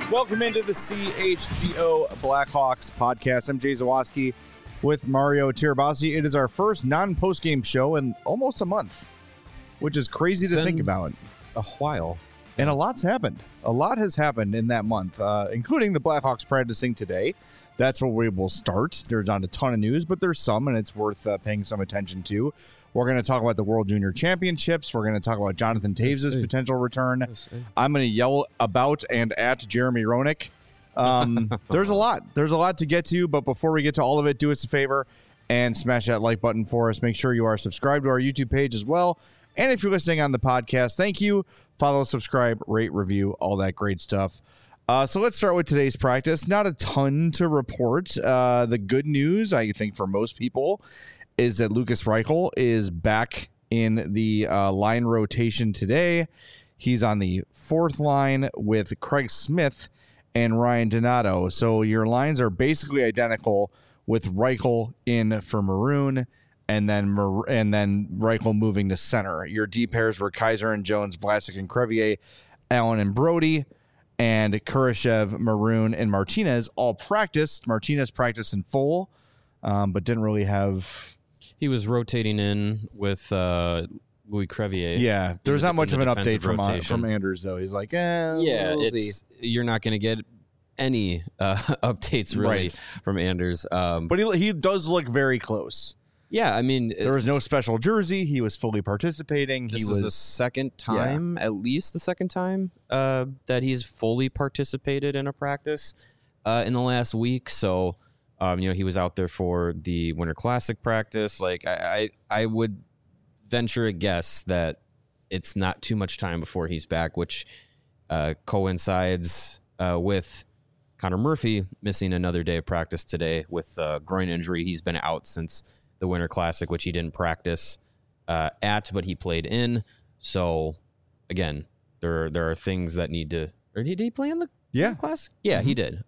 Welcome into the CHGO Blackhawks podcast. I'm Jay Zawaski with Mario Tirabassi. It is our first non-postgame show in almost a month, which is crazy to think about. A while. And a lot's happened. A lot has happened in that month, including the Blackhawks practicing today. That's where we will start. There's not a ton of news, but there's some, and it's worth paying some attention to. We're going to talk about the World Junior Championships. We're going to talk about Jonathan Toews' potential return. I'm going to yell about and at Jeremy Roenick. There's a lot. There's a lot to get to, but before we get to all of it, do us a favor and smash that like button for us. Make sure you are subscribed to our YouTube page as well. And if you're listening on the podcast, thank you. Follow, subscribe, rate, review, all that great stuff. So let's start with today's practice. Not a ton to report. The good news, I think, for most people is that Lukas Reichel is back in the line rotation today. He's on the fourth line with Craig Smith and Ryan Donato. So your lines are basically identical with Reichel in for Maroon and then Reichel moving to center. Your D pairs were Kaiser and Jones, Vlasic and Crevier, Allen and Brody, and Kurashev, Maroon, and Martinez all practiced. Martinez practiced in full, but didn't really have... He was rotating in with Louis Crevier. Yeah, there's not much of an update from Anders, though. He's like, we'll see. You're not going to get any updates, really, from Anders. But he does look very close. Yeah, I mean... There was no special jersey. He was fully participating. This is the second time, at least the second time, that he's fully participated in a practice in the last week. So, he was out there for the Winter Classic practice. Like, I would venture a guess that it's not too much time before he's back, which coincides with Connor Murphy missing another day of practice today with a groin injury. He's been out since the Winter Classic, which he didn't practice but he played in. So, again, there are things that need to... Or did he play in the Winter Classic? Yeah, he did.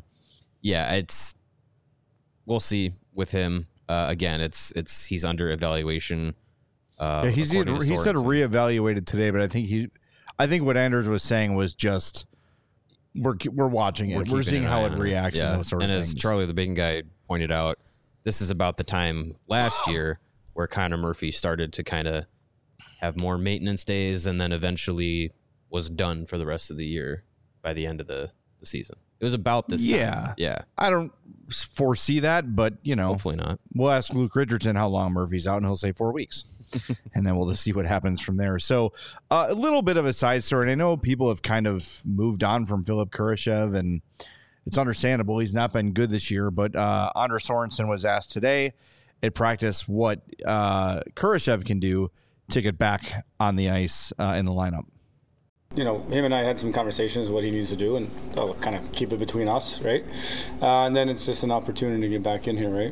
We'll see with him. Again, he's under evaluation. He said reevaluated today, but I think what Anders was saying was just we're watching it. We're seeing how it reacts and those sort of things. And as Charlie the Bacon Guy pointed out, this is about the time last year where Connor Murphy started to kind of have more maintenance days and then eventually was done for the rest of the year by the end of the season. It was about this time. Yeah. I don't foresee that, but, hopefully not. We'll ask Luke Richardson how long Murphy's out, and he'll say 4 weeks. And then we'll just see what happens from there. So a little bit of a side story. And I know people have kind of moved on from Philip Kurashev, and it's understandable. He's not been good this year, but Anders Sorensen was asked today at practice what Kurashev can do to get back on the ice in the lineup. Him and I had some conversations what he needs to do, and I'll kind of keep it between us, right? And then it's just an opportunity to get back in here, right?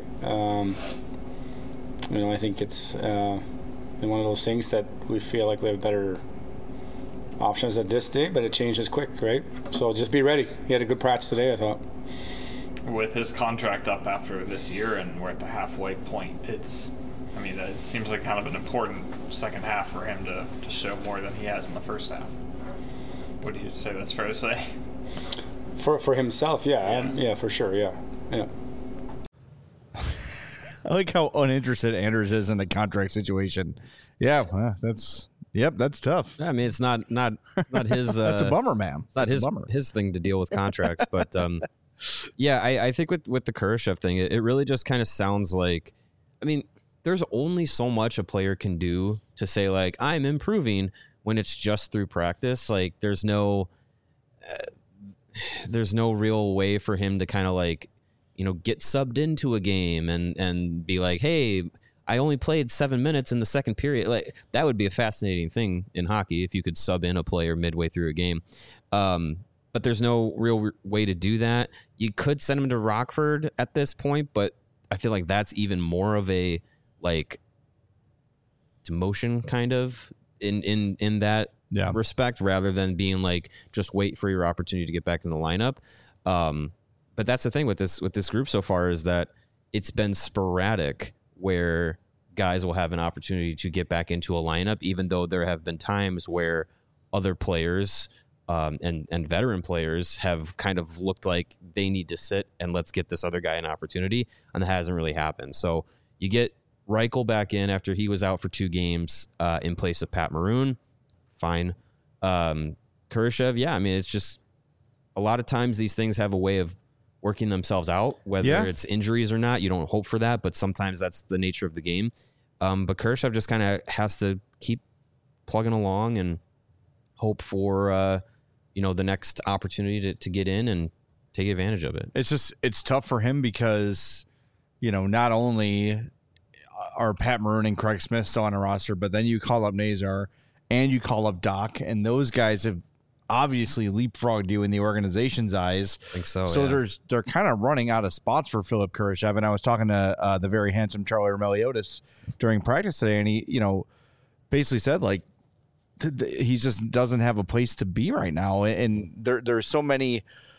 I think it's one of those things that we feel like we have better options at this day, but it changes quick, right? So just be ready. He had a good practice today, I thought. With his contract up after this year and we're at the halfway point, it seems like kind of an important second half for him to show more than he has in the first half. What do you say that's fair to say? For himself, yeah, for sure, yeah. I like how uninterested Anders is in the contract situation. Yeah, that's tough. Yeah, I mean, it's not his. That's a bummer, man. It's not his thing to deal with contracts, but I think with the Kurashev thing, it really just kind of sounds like, there's only so much a player can do to say like I'm improving when it's just through practice. Like there's no real way for him to kind of like, get subbed into a game and be like, hey, I only played 7 minutes in the second period. Like that would be a fascinating thing in hockey if you could sub in a player midway through a game. But there's no real way to do that. You could send him to Rockford at this point, but I feel like that's even more of a like demotion kind of in that respect, rather than being like just wait for your opportunity to get back in the lineup. But that's the thing with this group so far, is that it's been sporadic where guys will have an opportunity to get back into a lineup, even though there have been times where other players and veteran players have kind of looked like they need to sit and let's get this other guy an opportunity, and that hasn't really happened. So you get Reichel back in after he was out for 2 games in place of Pat Maroon. Fine. Kurashev, yeah, I mean, it's just a lot of times these things have a way of working themselves out, whether it's injuries or not. You don't hope for that, but sometimes that's the nature of the game. But Kurashev just kind of has to keep plugging along and hope for the next opportunity to get in and take advantage of it. It's tough for him because not only are Pat Maroon and Craig Smith still on a roster, but then you call up Nazar and you call up Doc, and those guys have obviously leapfrogged you in the organization's eyes. I think so. So yeah. they're kind of running out of spots for Philip Kurashev. And I was talking to the very handsome Charlie Meliodas during practice today, and he basically said like he just doesn't have a place to be right now. And there's so many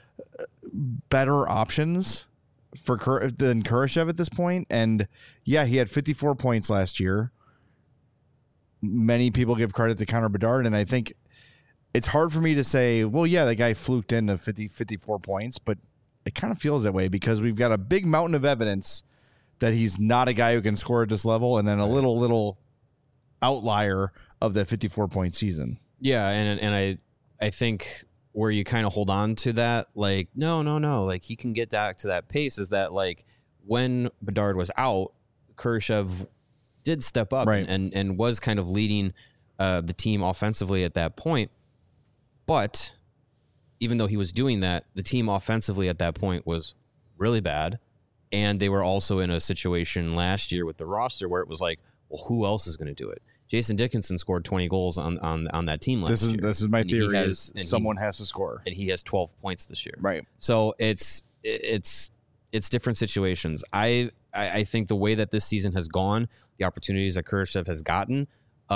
better options than Kurashev at this point. And yeah, he had 54 points last year. Many people give credit to Connor Bedard, and I think it's hard for me to say, well, yeah, the guy fluked into 54 points, but it kind of feels that way because we've got a big mountain of evidence that he's not a guy who can score at this level, and then a little outlier of that 54-point season. Yeah, and I think where you kind of hold on to that, like, no, like he can get back to that pace is that like when Bedard was out, Kurashev did step up and was kind of leading the team offensively at that point. But even though he was doing that, the team offensively at that point was really bad. And they were also in a situation last year with the roster where it was like, well, who else is going to do it? Jason Dickinson scored 20 goals on that team last year. This is my theory is someone has to score. And he has 12 points this year. Right. So it's different situations. I think the way that this season has gone, the opportunities that Kurashev has gotten,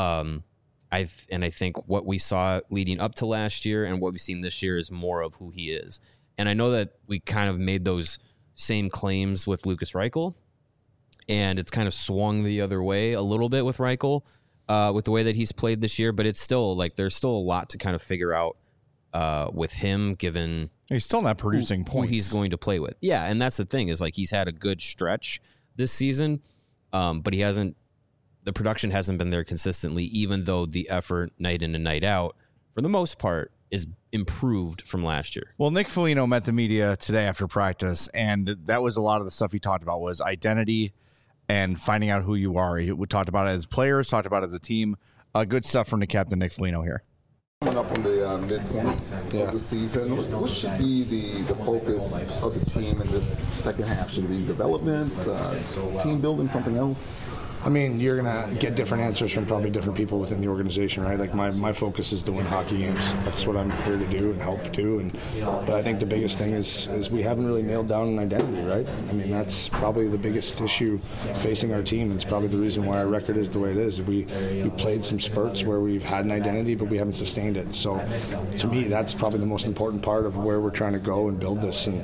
I think what we saw leading up to last year and what we've seen this year is more of who he is. And I know that we kind of made those same claims with Lukas Reichel, and it's kind of swung the other way a little bit with Reichel with the way that he's played this year. But it's still like there's still a lot to kind of figure out with him, given he's still not producing points. Who he's going to play with. Yeah, and that's the thing is like he's had a good stretch this season, but he hasn't. The production hasn't been there consistently, even though the effort night in and night out, for the most part, is improved from last year. Well, Nick Foligno met the media today after practice, and that was a lot of the stuff he talked about was identity and finding out who you are. He talked about it as players, talked about it as a team. Good stuff from the captain, Nick Foligno, here. Coming up on the midpoint of the season, what should be the focus of the team in this second half? Should it be development, team building, something else? I mean, you're going to get different answers from probably different people within the organization, right? Like my focus is to win hockey games. That's what I'm here to do and help do. But I think the biggest thing is we haven't really nailed down an identity, right? I mean, that's probably the biggest issue facing our team. It's probably the reason why our record is the way it is. We played some spurts where we've had an identity, but we haven't sustained it. So to me, that's probably the most important part of where we're trying to go and build this. And,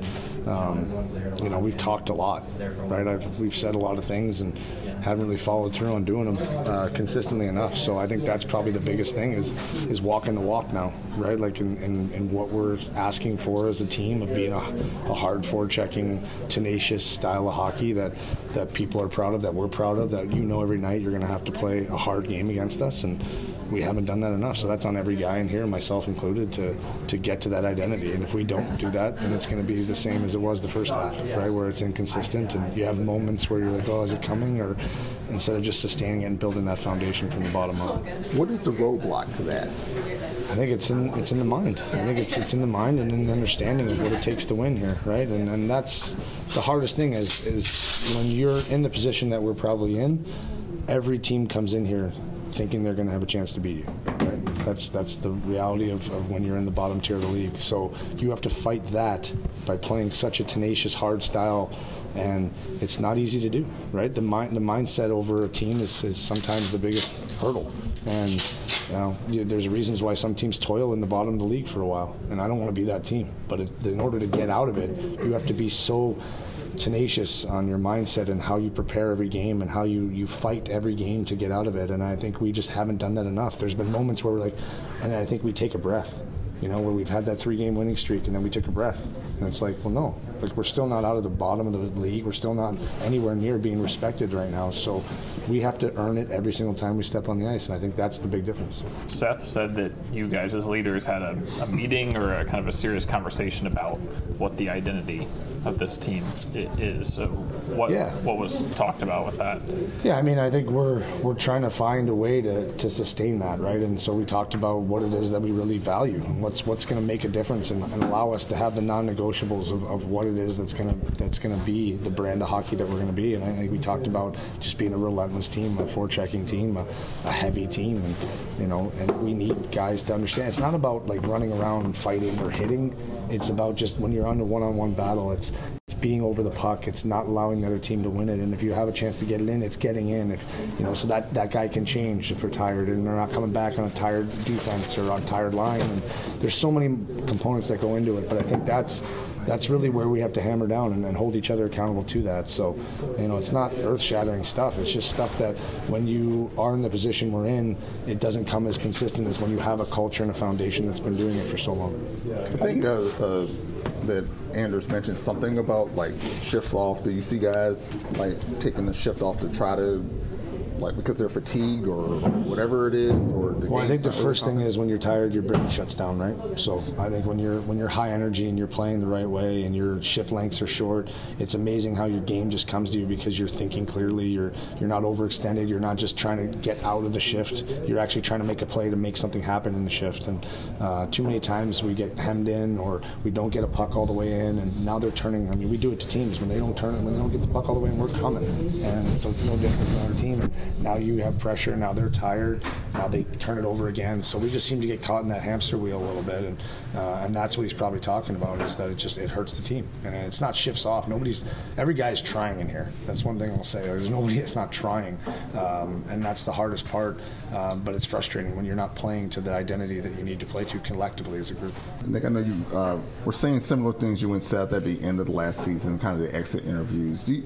we've talked a lot, right? We've said a lot of things and haven't really followed through on doing them consistently enough. So I think that's probably the biggest thing is walking the walk now, right? Like in what we're asking for as a team of being a hard forechecking, tenacious style of hockey that people are proud of, that we're proud of, that every night you're going to have to play a hard game against us, and we haven't done that enough. So that's on every guy in here, myself included, to get to that identity. And if we don't do that, then it's going to be the same as it was the first half, right? Where it's inconsistent and you have moments where you're like, oh, is it coming? Or instead of just sustaining it and building that foundation from the bottom up. What is the roadblock to that? I think it's in the mind. I think it's in the mind and in the understanding of what it takes to win here, right? And that's the hardest thing is when you're in the position that we're probably in, every team comes in here thinking they're going to have a chance to beat you, right? That's the reality of when you're in the bottom tier of the league. So you have to fight that by playing such a tenacious, hard style, and it's not easy to do, right? The mindset over a team is sometimes the biggest hurdle. And there's reasons why some teams toil in the bottom of the league for a while, and I don't want to be that team. But in order to get out of it, you have to be so tenacious on your mindset and how you prepare every game and how you fight every game to get out of it. And I think we just haven't done that enough. There's been moments where we're like, and I think we take a breath you know, where we've had that 3-game winning streak and then we took a breath. And it's like, well, no, like we're still not out of the bottom of the league. We're still not anywhere near being respected right now. So we have to earn it every single time we step on the ice. And I think that's the big difference. Seth said that you guys as leaders had a meeting or a kind of a serious conversation about what the identity of this team is. So what was talked about with that? Yeah, I mean, I think we're trying to find a way to sustain that, right? And so we talked about what it is that we really value and what's going to make a difference and allow us to have the non-negotiables of what it is that's going to be the brand of hockey that we're going to be. And I think we talked about just being a relentless team, a forechecking team, a heavy team, and you know, and we need guys to understand. It's not about like running around and fighting or hitting. It's about just when you're on a one-on-one battle, it's being over the puck. It's not allowing the other team to win it. And if you have a chance to get it in, it's getting in. If you know, so that guy can change if they're tired and they're not coming back on a tired defense or on a tired line. And there's so many components that go into it. But I think that's really where we have to hammer down and hold each other accountable to that. So, you know, it's not earth-shattering stuff. It's just stuff that when you are in the position we're in, it doesn't come as consistent as when you have a culture and a foundation that's been doing it for so long. I think that Anders mentioned something about like shifts off. Do you see guys like taking the shift off to try to, like, because they're fatigued or whatever it is, or well, I think the first thing is when you're tired, your brain shuts down, right? So I think when you're high energy and you're playing the right way and your shift lengths are short, it's amazing how your game just comes to you because you're thinking clearly. You're not overextended. You're not just trying to get out of the shift. You're actually trying to make a play to make something happen in the shift. And too many times we get hemmed in or we don't get a puck all the way in, and now they're turning. I mean, we do it to teams when they don't turn it, when they don't get the puck all the way in, we're coming, and so it's no different for our team. And now you have pressure. Now they're tired. Now they turn it over again. So we just seem to get caught in that hamster wheel a little bit, and that's what he's probably talking about, is that it hurts the team, and it's not shifts off. Every guy's trying in here. That's one thing I'll say. There's nobody that's not trying, and that's the hardest part. But it's frustrating when you're not playing to the identity that you need to play to collectively as a group. Nick, I know you were saying similar things you and Seth at the end of the last season, kind of the exit interviews. Do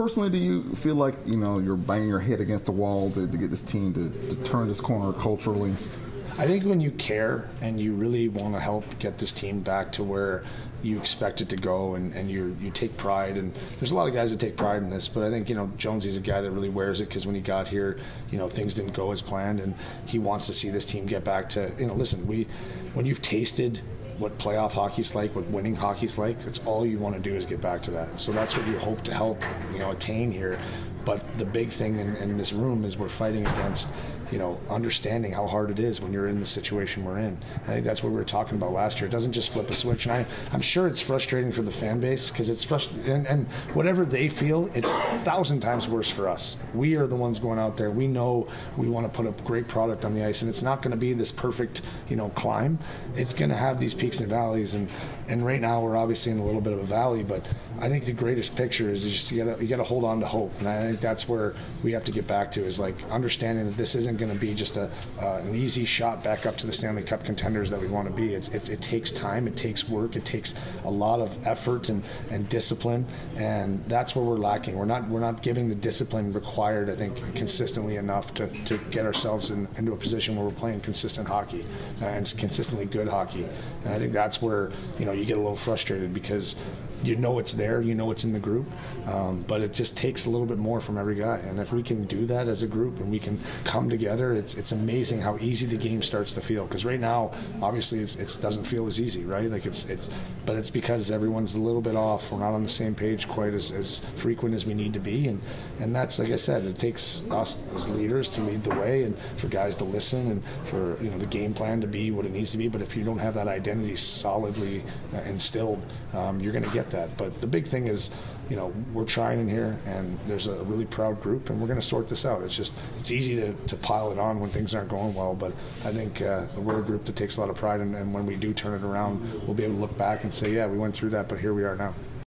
you feel like, you know, you're banging your head against the wall to get this team to turn this corner culturally? I think when you care and you really want to help get this team back to where you expect it to go, and you take pride, and there's a lot of guys that take pride in this, but I think, you know, Jonesy's a guy that really wears it, because when he got here, you know, things didn't go as planned, and he wants to see this team get back to, you know, listen, when you've tasted what playoff hockey's like, what winning hockey's like, that's all you want to do is get back to that. So that's what you hope to help, you know, attain here. But the big thing in this room is we're fighting against, you know, understanding how hard it is when you're in the situation we're in. I think that's what we were talking about last year. It doesn't just flip a switch, and I'm sure it's frustrating for the fan base, because it's frustrating, and whatever they feel, it's 1,000 times worse for us. We are the ones going out there. We know we want to put a great product on the ice, and it's not going to be this perfect, you know, climb. It's going to have these peaks and valleys, and right now we're obviously in a little bit of a valley, but I think the greatest picture is just you got to hold on to hope, and I think that's where we have to get back to, is like understanding that this isn't going to be just an easy shot back up to the Stanley Cup contenders that we want to be. It takes time, it takes work, it takes a lot of effort and discipline, and that's where we're lacking. We're not giving the discipline required, I think, consistently enough to get ourselves into a position where we're playing consistent hockey and consistently good hockey. And I think that's where, you know, you get a little frustrated, because you know it's there, you know it's in the group, but it just takes a little bit more from every guy. And if we can do that as a group and we can come together, it's amazing how easy the game starts to feel. Because right now, obviously, it doesn't feel as easy, right? Like but it's because everyone's a little bit off. We're not on the same page quite as frequent as we need to be, and that's, like I said, it takes us as leaders to lead the way, and for guys to listen, and for, you know, the game plan to be what it needs to be. But if you don't have that identity solidly instilled, you're going to get that. But the big thing is, you know, we're trying in here, and there's a really proud group, and we're going to sort this out. It's easy to pile it on when things aren't going well, but I think we're a group that takes a lot of pride, and when we do turn it around, we'll be able to look back and say, yeah, we went through that, but here we are now.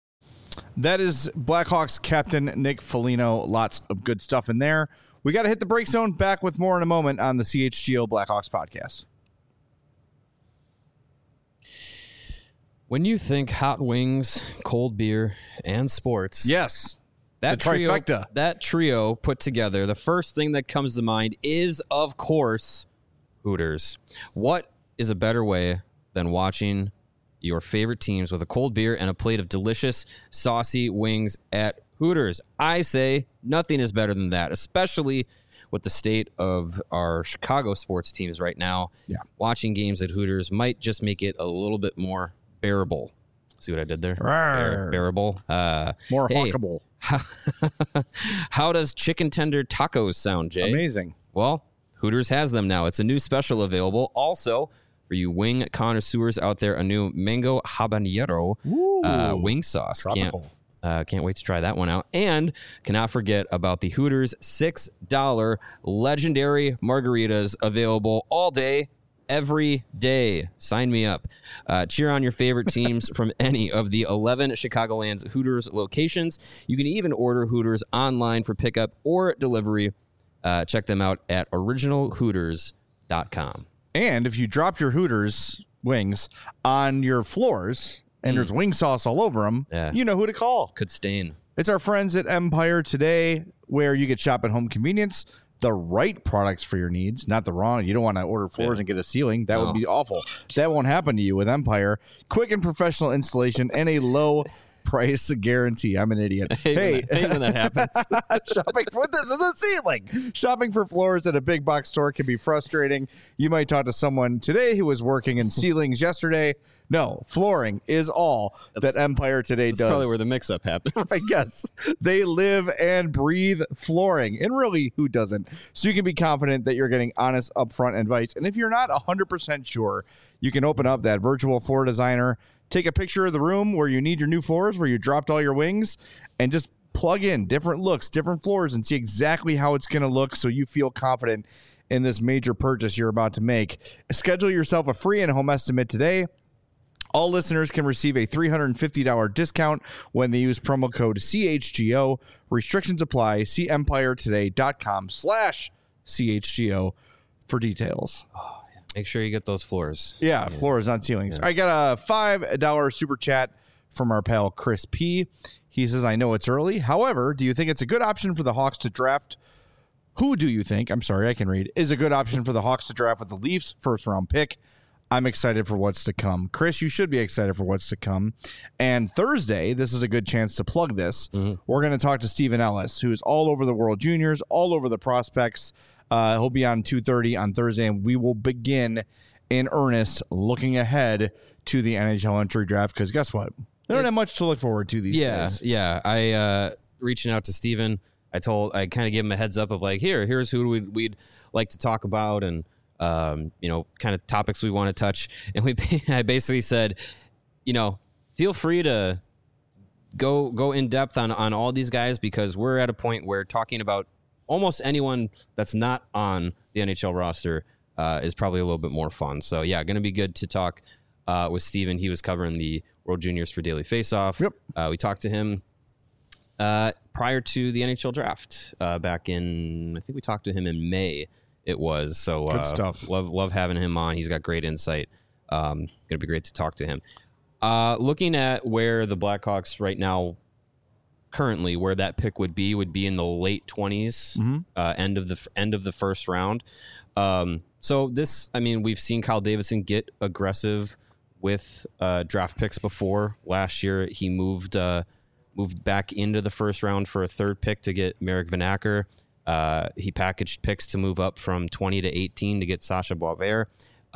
That is Blackhawks captain Nick Foligno. Lots of good stuff in there. We got to hit the break zone. Back with more in a moment on the CHGO Blackhawks podcast. When you think hot wings, cold beer, and sports, yes, that the trifecta. That trio put together, the first thing that comes to mind is, of course, Hooters. What is a better way than watching your favorite teams with a cold beer and a plate of delicious, saucy wings at Hooters. I say nothing is better than that, especially with the state of our Chicago sports teams right now. Yeah. Watching games at Hooters might just make it a little bit more bearable. See what I did there? Rawr. Bearable. More hey, hawkable. How does chicken tender tacos sound, Jay? Amazing. Well, Hooters has them now. It's a new special available. Also, for you wing connoisseurs out there, a new mango habanero wing sauce. Tropical. Can't wait to try that one out. And cannot forget about the Hooters $6 legendary margaritas available all day, every day. Sign me up. Cheer on your favorite teams from any of the 11 Chicagoland's Hooters locations. You can even order Hooters online for pickup or delivery. Check them out at originalhooters.com. And if you drop your Hooters wings on your floors and there's wing sauce all over them, you know who to call. Could stain. It's our friends at Empire Today, where you get shop at home convenience, the right products for your needs, not the wrong. You don't want to order floors and get a ceiling. That would be awful. That won't happen to you with Empire. Quick and professional installation and a low price guarantee. I'm an idiot. Hey, when that happens. Shopping for this is a ceiling. Shopping for floors at a big box store can be frustrating. You might talk to someone today who was working in ceilings yesterday. No, flooring is all that Empire Today does. That's probably where the mix-up happens. I guess they live and breathe flooring, and really, who doesn't? So you can be confident that you're getting honest, upfront advice. And if you're not 100% sure, you can open up that virtual floor designer, take a picture of the room where you need your new floors, where you dropped all your wings, and just plug in different looks, different floors, and see exactly how it's going to look so you feel confident in this major purchase you're about to make. Schedule yourself a free in-home estimate today. All listeners can receive a $350 discount when they use promo code CHGO. Restrictions apply. See empiretoday.com/CHGO for details. Make sure you get those floors. Yeah, floors, not ceilings. I got a $5 super chat from our pal Chris P. He says, I know it's early. However, do you think it's a good option for the Hawks to draft? Who do you think, I'm sorry, I can read, is a good option for the Hawks to draft with the Leafs first round pick? I'm excited for what's to come. Chris, you should be excited for what's to come. And Thursday, this is a good chance to plug this. We're going to talk to Stephen Ellis, who's all over the World Juniors, all over the prospects. He'll be on 2:30 on Thursday, and we will begin in earnest looking ahead to the NHL entry draft, because guess what? They don't have much to look forward to these days. Yeah. I reaching out to Stephen, I kind of gave him a heads up of like, here's who we'd like to talk about, and kind of topics we want to touch. And I basically said, feel free to go in depth on all these guys, because we're at a point where talking about almost anyone that's not on the NHL roster is probably a little bit more fun. So yeah, going to be good to talk with Steven. He was covering the World Juniors for Daily Faceoff. Yep. We talked to him prior to the NHL draft back in, I think we talked to him in May. It was. So good stuff. Love having him on. He's got great insight. Going to be great to talk to him. Looking at where the Blackhawks right now, currently where that pick would be in the late 20s, end of the first round. So this, we've seen Kyle Davidson get aggressive with draft picks before. Last year, he moved back into the first round for a third pick to get Marek Vanacker. He packaged picks to move up from 20 to 18 to get Sasha Boisvert.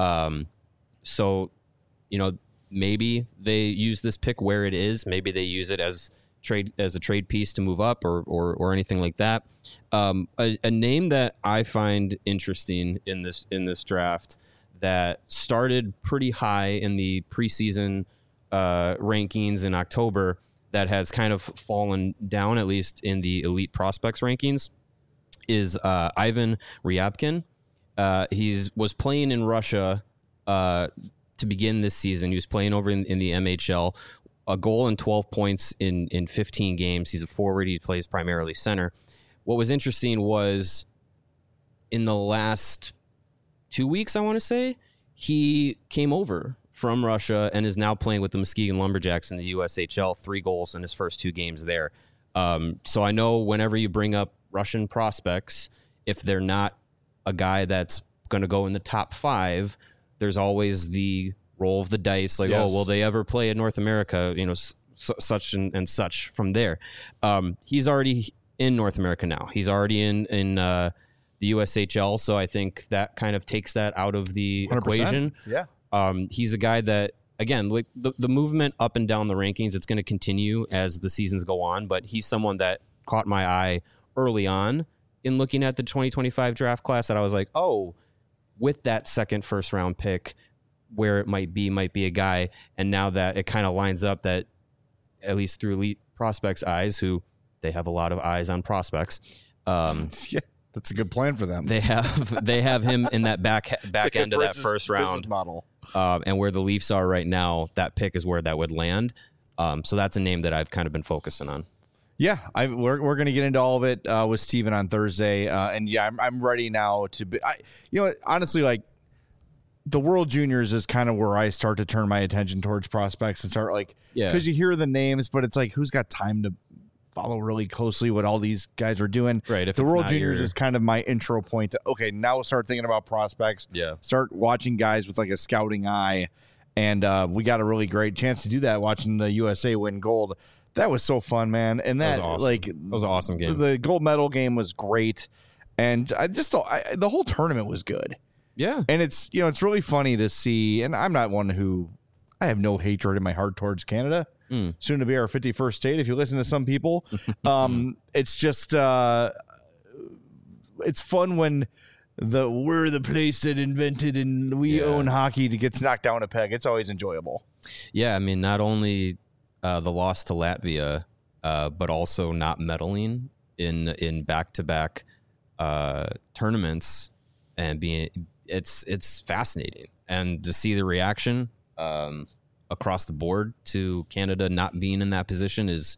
So, maybe they use this pick where it is. Maybe they use it as a trade piece to move up or anything like that. A name that I find interesting in this draft that started pretty high in the preseason rankings in October, that has kind of fallen down, at least in the elite prospects rankings, is Ivan Ryabkin. He was playing in Russia to begin this season. He was playing over in the MHL. A goal and 12 points in 15 games. He's a forward. He plays primarily center. What was interesting was in the last 2 weeks, I want to say, he came over from Russia and is now playing with the Muskegon Lumberjacks in the USHL. 3 goals in his first 2 games there. So I know whenever you bring up Russian prospects, if they're not a guy that's going to go in the top 5, there's always the roll of the dice, like, Yes. oh, will they ever play in North America? Such and such from there. He's already in North America now. He's already in the USHL, so I think that kind of takes that out of the 100%. equation. Yeah. He's a guy that, again, like the movement up and down the rankings, it's going to continue as the seasons go on, but he's someone that caught my eye early on in looking at the 2025 draft class that I was like, oh, with that second first round pick, where it might be a guy. And now that it kind of lines up that, at least through Elite Prospects' eyes, who they have a lot of eyes on prospects. Yeah, that's a good plan for them. They have him in that back end of that first round model. And where the Leafs are right now, that pick is where that would land. So that's a name that I've kind of been focusing on. Yeah, we're going to get into all of it with Steven on Thursday, and yeah, I'm ready now to be. Honestly, like the World Juniors is kind of where I start to turn my attention towards prospects and start because you hear the names, but it's like who's got time to follow really closely what all these guys are doing. Right. If the it's World not Juniors your- is kind of my intro point to okay, now start thinking about prospects. Yeah. Start watching guys with like a scouting eye, and we got a really great chance to do that watching the USA win gold. That was so fun, man. And that, was awesome. That was an awesome game. The gold medal game was great. And I just the whole tournament was good. Yeah. And it's, it's really funny to see. And I'm not one who I have no hatred in my heart towards Canada. Soon to be our 51st state. If you listen to some people, it's just, it's fun when we're the place that invented and we own hockey to get knocked down a peg. It's always enjoyable. Yeah. I mean, not only the loss to Latvia, but also not medaling in back-to-back tournaments, and it's fascinating, and to see the reaction across the board to Canada not being in that position is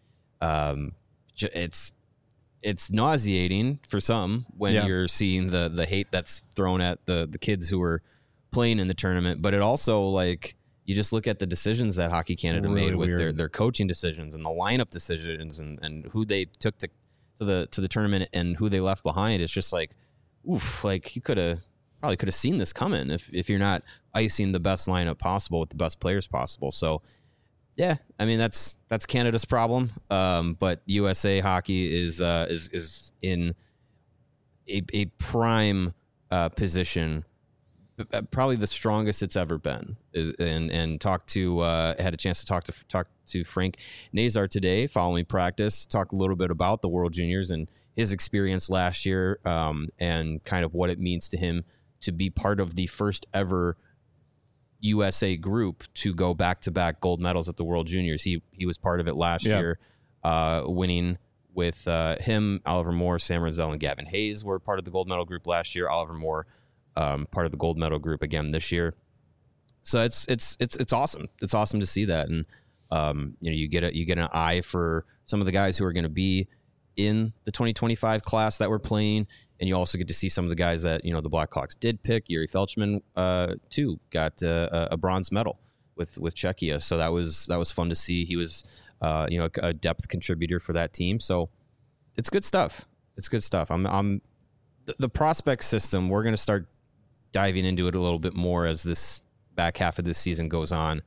it's nauseating for some when you're seeing the hate that's thrown at the kids who were playing in the tournament, but it also you just look at the decisions that Hockey Canada Really made with weird. their coaching decisions and the lineup decisions and who they took to the tournament and who they left behind. It's just oof, you probably could have seen this coming if you're not icing the best lineup possible with the best players possible. So yeah, I mean that's Canada's problem. But USA hockey is in a prime position. Probably the strongest it's ever been, and had a chance to talk to Frank Nazar today following practice. Talk a little bit about the World Juniors and his experience last year, and kind of what it means to him to be part of the first ever USA group to go back-to-back gold medals at the World Juniors. He was part of it last year, winning with him, Oliver Moore, Sam Renzel, and Gavin Hayes were part of the gold medal group last year. Oliver Moore. Part of the gold medal group again this year, so it's awesome. It's awesome to see that, and you get an eye for some of the guys who are going to be in the 2025 class that we're playing, and you also get to see some of the guys that the Blackhawks did pick. Yuri Felchman too got a bronze medal with Czechia, so that was fun to see. He was a depth contributor for that team, so it's good stuff. It's good stuff. I'm the prospect system. We're going to start diving into it a little bit more as this back half of this season goes on.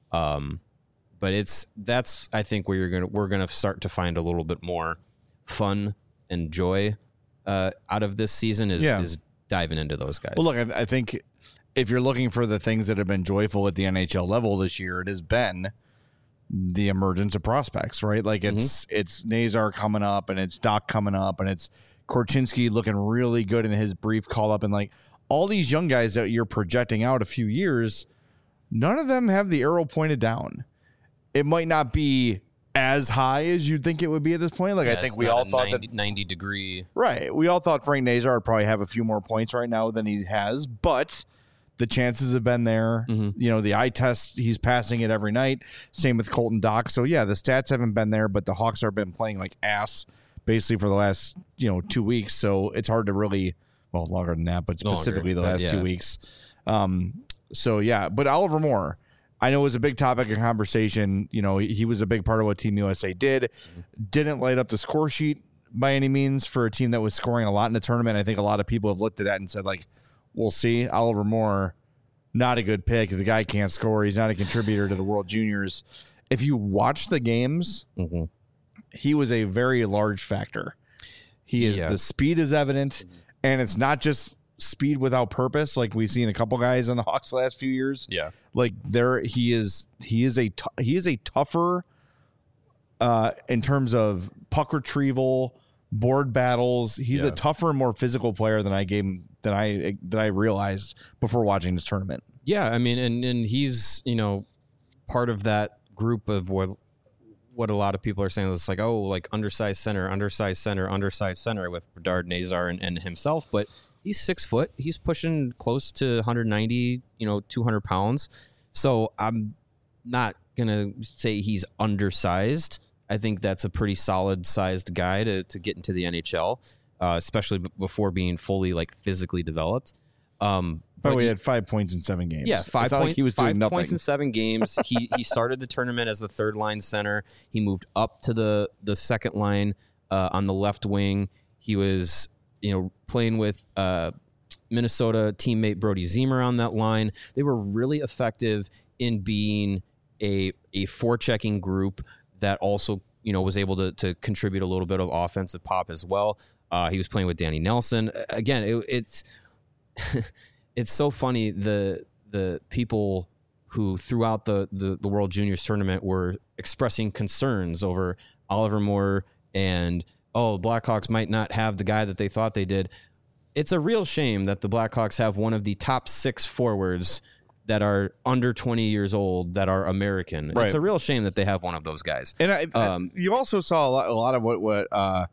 But that's I think where we're gonna start to find a little bit more fun and joy out of this season is diving into those guys. Well, look, I think if you're looking for the things that have been joyful at the NHL level this year, it has been the emergence of prospects, right? It's Nazar coming up, and it's Doc coming up, and it's Korchinski looking really good in his brief call up, and all these young guys that you're projecting out a few years, none of them have the arrow pointed down. It might not be as high as you'd think it would be at this point. I think we all thought 90 degree. Right. We all thought Frank Nazar would probably have a few more points right now than he has, but the chances have been there. Mm-hmm. The eye test, he's passing it every night. Same with Colton Dock. So yeah, the stats haven't been there, but the Hawks have been playing like ass basically for the last 2 weeks. So it's hard to really, well, longer than that, but specifically the last 2 weeks. So yeah, but Oliver Moore, I know, was a big topic of conversation. He was a big part of what Team USA did. Didn't light up the score sheet by any means for a team that was scoring a lot in the tournament. I think a lot of people have looked at that and said, we'll see. Oliver Moore not a good pick. The guy can't score. He's not a contributor to the World Juniors. If you watch the games, he was a very large factor. The speed is evident, and it's not just speed without purpose like we've seen a couple guys on the Hawks the last few years. Yeah. Like he is a tougher in terms of puck retrieval, board battles. He's a tougher and more physical player than I realized before watching this tournament. Yeah, I mean, and he's, part of that group of what a lot of people are saying is like, oh, like undersized center with Bedard, Nazar, and himself. But he's 6 foot. He's pushing close to 190, 200 pounds. So I'm not going to say he's undersized. I think that's a pretty solid sized guy to get into the NHL, especially before being fully like physically developed. But we had 5 points in 7 games. Yeah, 5 points. Like he was doing 5 nothing. Points in 7 games. He started the tournament as the third line center. He moved up to the second line on the left wing. He was playing with Minnesota teammate Brody Zimmer on that line. They were really effective in being a forechecking group that also was able to contribute a little bit of offensive pop as well. He was playing with Danny Nelson. Again, it's it's so funny the people who throughout the World Juniors tournament were expressing concerns over Oliver Moore and Blackhawks might not have the guy that they thought they did. It's a real shame that the Blackhawks have one of the top 6 forwards that are under 20 years old that are American. Right. It's a real shame that they have one of those guys. And you also saw a lot of what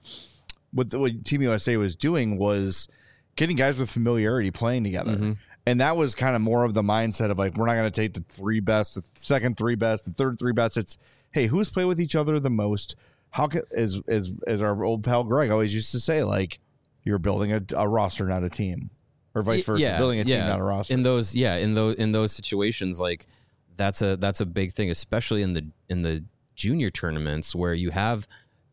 Team USA was doing was getting guys with familiarity playing together. Mm-hmm. And that was kind of more of the mindset of like, we're not going to take the 3 best, the second 3 best, the third 3 best. It's, hey, who's played with each other the most? How can, as our old pal Greg always used to say, like, you're building a roster, not a team, or vice versa, building a team, not a roster. In those situations, like that's a big thing, especially in the junior tournaments where you have,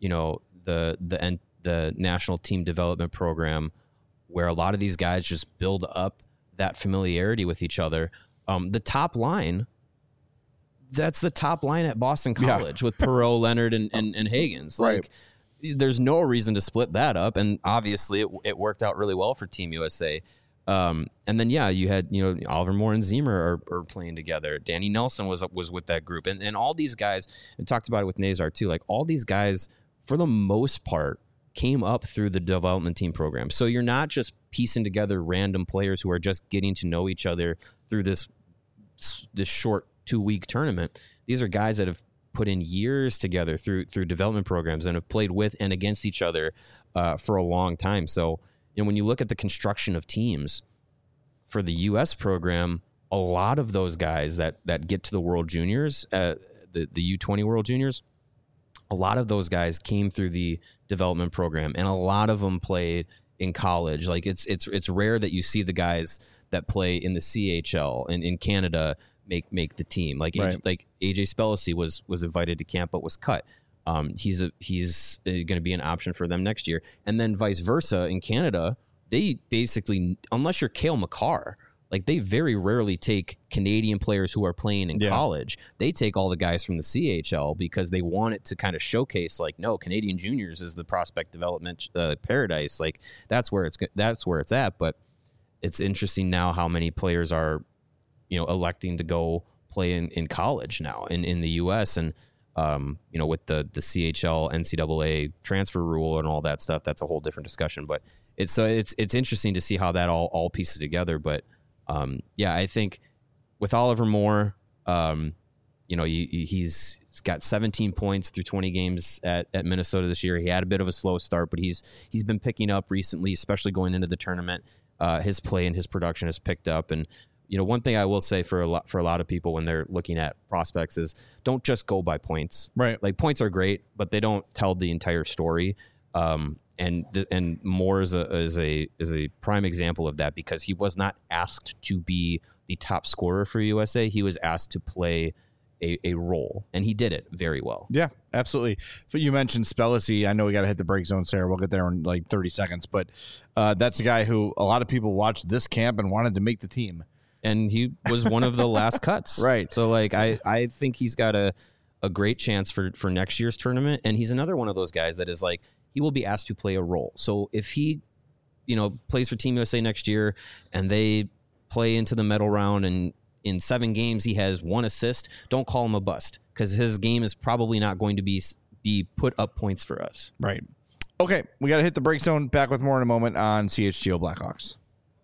the national team development program where a lot of these guys just build up that familiarity with each other. The top line, that's the top line at Boston College with Perreault, Leonard, and Higgins. Like, there's no reason to split that up, and obviously it worked out really well for Team USA. And then you had Oliver Moore and Zimmer are playing together. Danny Nelson was with that group, and all these guys. And talked about it with Nazar too. Like all these guys, for the most part, came up through the development team program. So you're not just piecing together random players who are just getting to know each other through this short 2-week tournament. These are guys that have put in years together through development programs and have played with and against each other for a long time. So when you look at the construction of teams for the U.S. program, a lot of those guys that get to the World Juniors, the U20 World Juniors, a lot of those guys came through the development program, and a lot of them played in college. Like it's rare that you see the guys that play in the CHL and in Canada make the team. Like AJ Spellacy was invited to camp but was cut. He's going to be an option for them next year, and then vice versa in Canada. They basically, unless you're Cale Makar, like they very rarely take Canadian players who are playing in college. They take all the guys from the CHL because they want it to kind of showcase, like, no, Canadian juniors is the prospect development paradise. Like that's where it's at. But it's interesting now how many players are, electing to go play in college now in the U.S. and with the CHL NCAA transfer rule and all that stuff. That's a whole different discussion. But it's interesting to see how that all pieces together. But I think with Oliver Moore, he's got 17 points through 20 games at Minnesota this year. He had a bit of a slow start, but he's been picking up recently, especially going into the tournament. His play and his production has picked up. And one thing I will say for a lot of people when they're looking at prospects is don't just go by points. Right, like points are great, but they don't tell the entire story. And Moore is a prime example of that because he was not asked to be the top scorer for USA. He was asked to play a role, and he did it very well. Yeah, absolutely. But you mentioned Spellacy. I know we got to hit the break zone, Sarah. We'll get there in like 30 seconds. But that's a guy who a lot of people watched this camp and wanted to make the team. and he was one of the last cuts. Right. So like I think he's got a great chance for next year's tournament, and he's another one of those guys that is like he will be asked to play a role. So if he, plays for Team USA next year and they play into the medal round and in 7 games he has 1 assist, don't call him a bust, because his game is probably not going to be put up points for us. Right. Okay, we got to hit the break zone. Back with more in a moment on CHGO Blackhawks.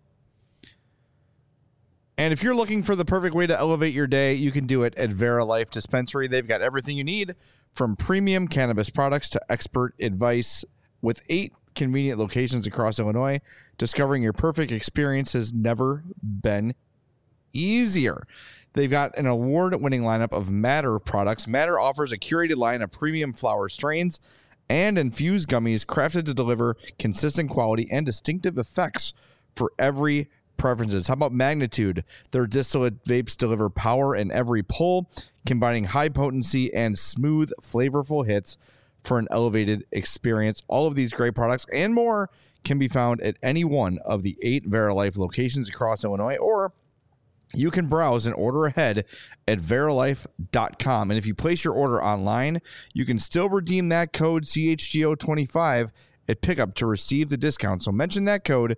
And if you're looking for the perfect way to elevate your day, you can do it at Vera Life Dispensary. They've got everything you need, from premium cannabis products to expert advice. With 8 convenient locations across Illinois, discovering your perfect experience has never been easier. They've got an award-winning lineup of Matter products. Matter offers a curated line of premium flower strains and infused gummies crafted to deliver consistent quality and distinctive effects for every preferences. How about Magnitude? Their distillate vapes deliver power in every pull, combining high potency and smooth, flavorful hits for an elevated experience. All of these great products and more can be found at any one of the 8 Vera Life locations across Illinois, or you can browse and order ahead at veralife.com. And if you place your order online, you can still redeem that code CHGO25 at pickup to receive the discount. So mention that code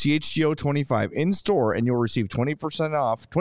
CHGO25 in store and you'll receive 25%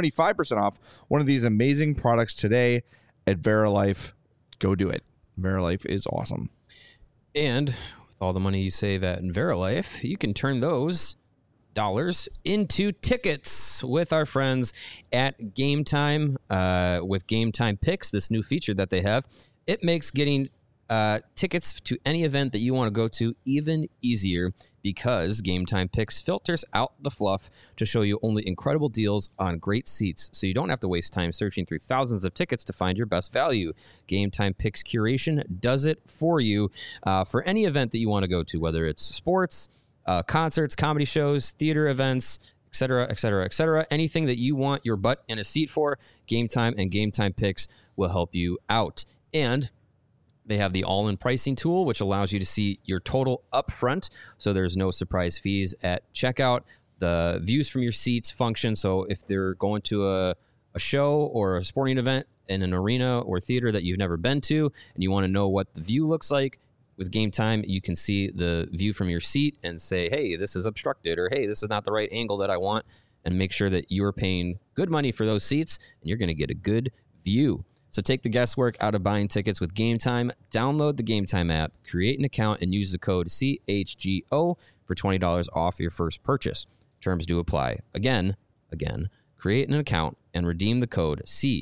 off one of these amazing products today at Veralife. Go do it. Veralife is awesome. And with all the money you save at Veralife, you can turn those dollars into tickets with our friends at Game Time. With Game Time Picks, this new feature that they have, it makes getting tickets to any event that you want to go to even easier, because Game Time Picks filters out the fluff to show you only incredible deals on great seats, so you don't have to waste time searching through thousands of tickets to find your best value. Game Time Picks curation does it for you for any event that you want to go to, whether it's sports, concerts, comedy shows, theater events, etc., etc., etc. Anything that you want your butt in a seat for, Game Time and Game Time Picks will help you out. And they have the all-in pricing tool, which allows you to see your total up front, so there's no surprise fees at checkout. The views from your seats function, so if they're going to a show or a sporting event in an arena or theater that you've never been to, and you want to know what the view looks like, with Game Time, you can see the view from your seat and say, hey, this is obstructed, or hey, this is not the right angle that I want, and make sure that you're paying good money for those seats, and you're going to get a good view. So take the guesswork out of buying tickets with Game Time. Download the Game Time app, create an account, and use the code CHGO for $20 off your first purchase. Terms do apply. Again, create an account and redeem the code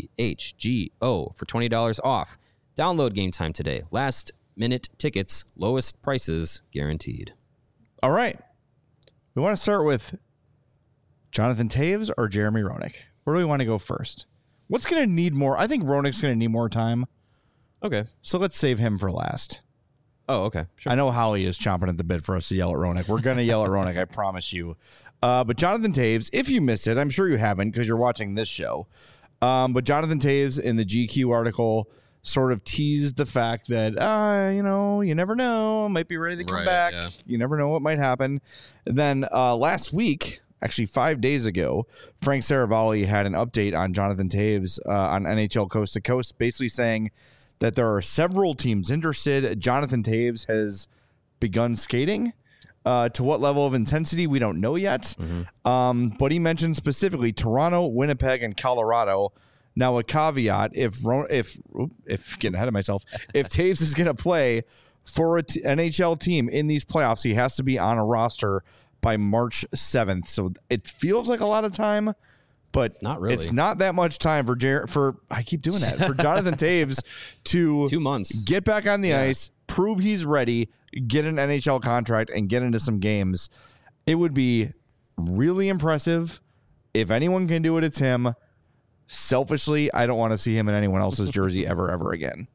CHGO for $20 off. Download Game Time today. Last minute tickets, lowest prices guaranteed. All right. We want to start with Jonathan Toews or Jeremy Roenick. Where do we want to go first? What's going to need more? I think Roenick's going to need more time. Okay. So let's save him for last. Oh, okay. Sure. I know Howie is chomping at the bit for us to yell at Roenick. We're going to yell at Roenick, I promise you. But Jonathan Toews, if you missed it, I'm sure you haven't because you're watching this show. But Jonathan Toews in the GQ article sort of teased the fact that, you never know. Might be ready to come back. Yeah. You never know what might happen. And then last week, actually 5 days ago, Frank Saravalli had an update on Jonathan Toews on NHL Coast to Coast, basically saying that there are several teams interested. Jonathan Toews has begun skating. To what level of intensity, we don't know yet. Mm-hmm. But he mentioned specifically Toronto, Winnipeg, and Colorado. Now, a caveat, if getting ahead of myself, if Toews is going to play for an NHL team in these playoffs, he has to be on a roster by March 7th. So it feels like a lot of time, but it's not really. It's not that much time for I keep doing that, for Jonathan Toews to 2 months get back on the ice, prove he's ready, get an NHL contract, and get into some games. It would be really impressive. If anyone can do it, it's him. Selfishly, I don't want to see him in anyone else's jersey ever again.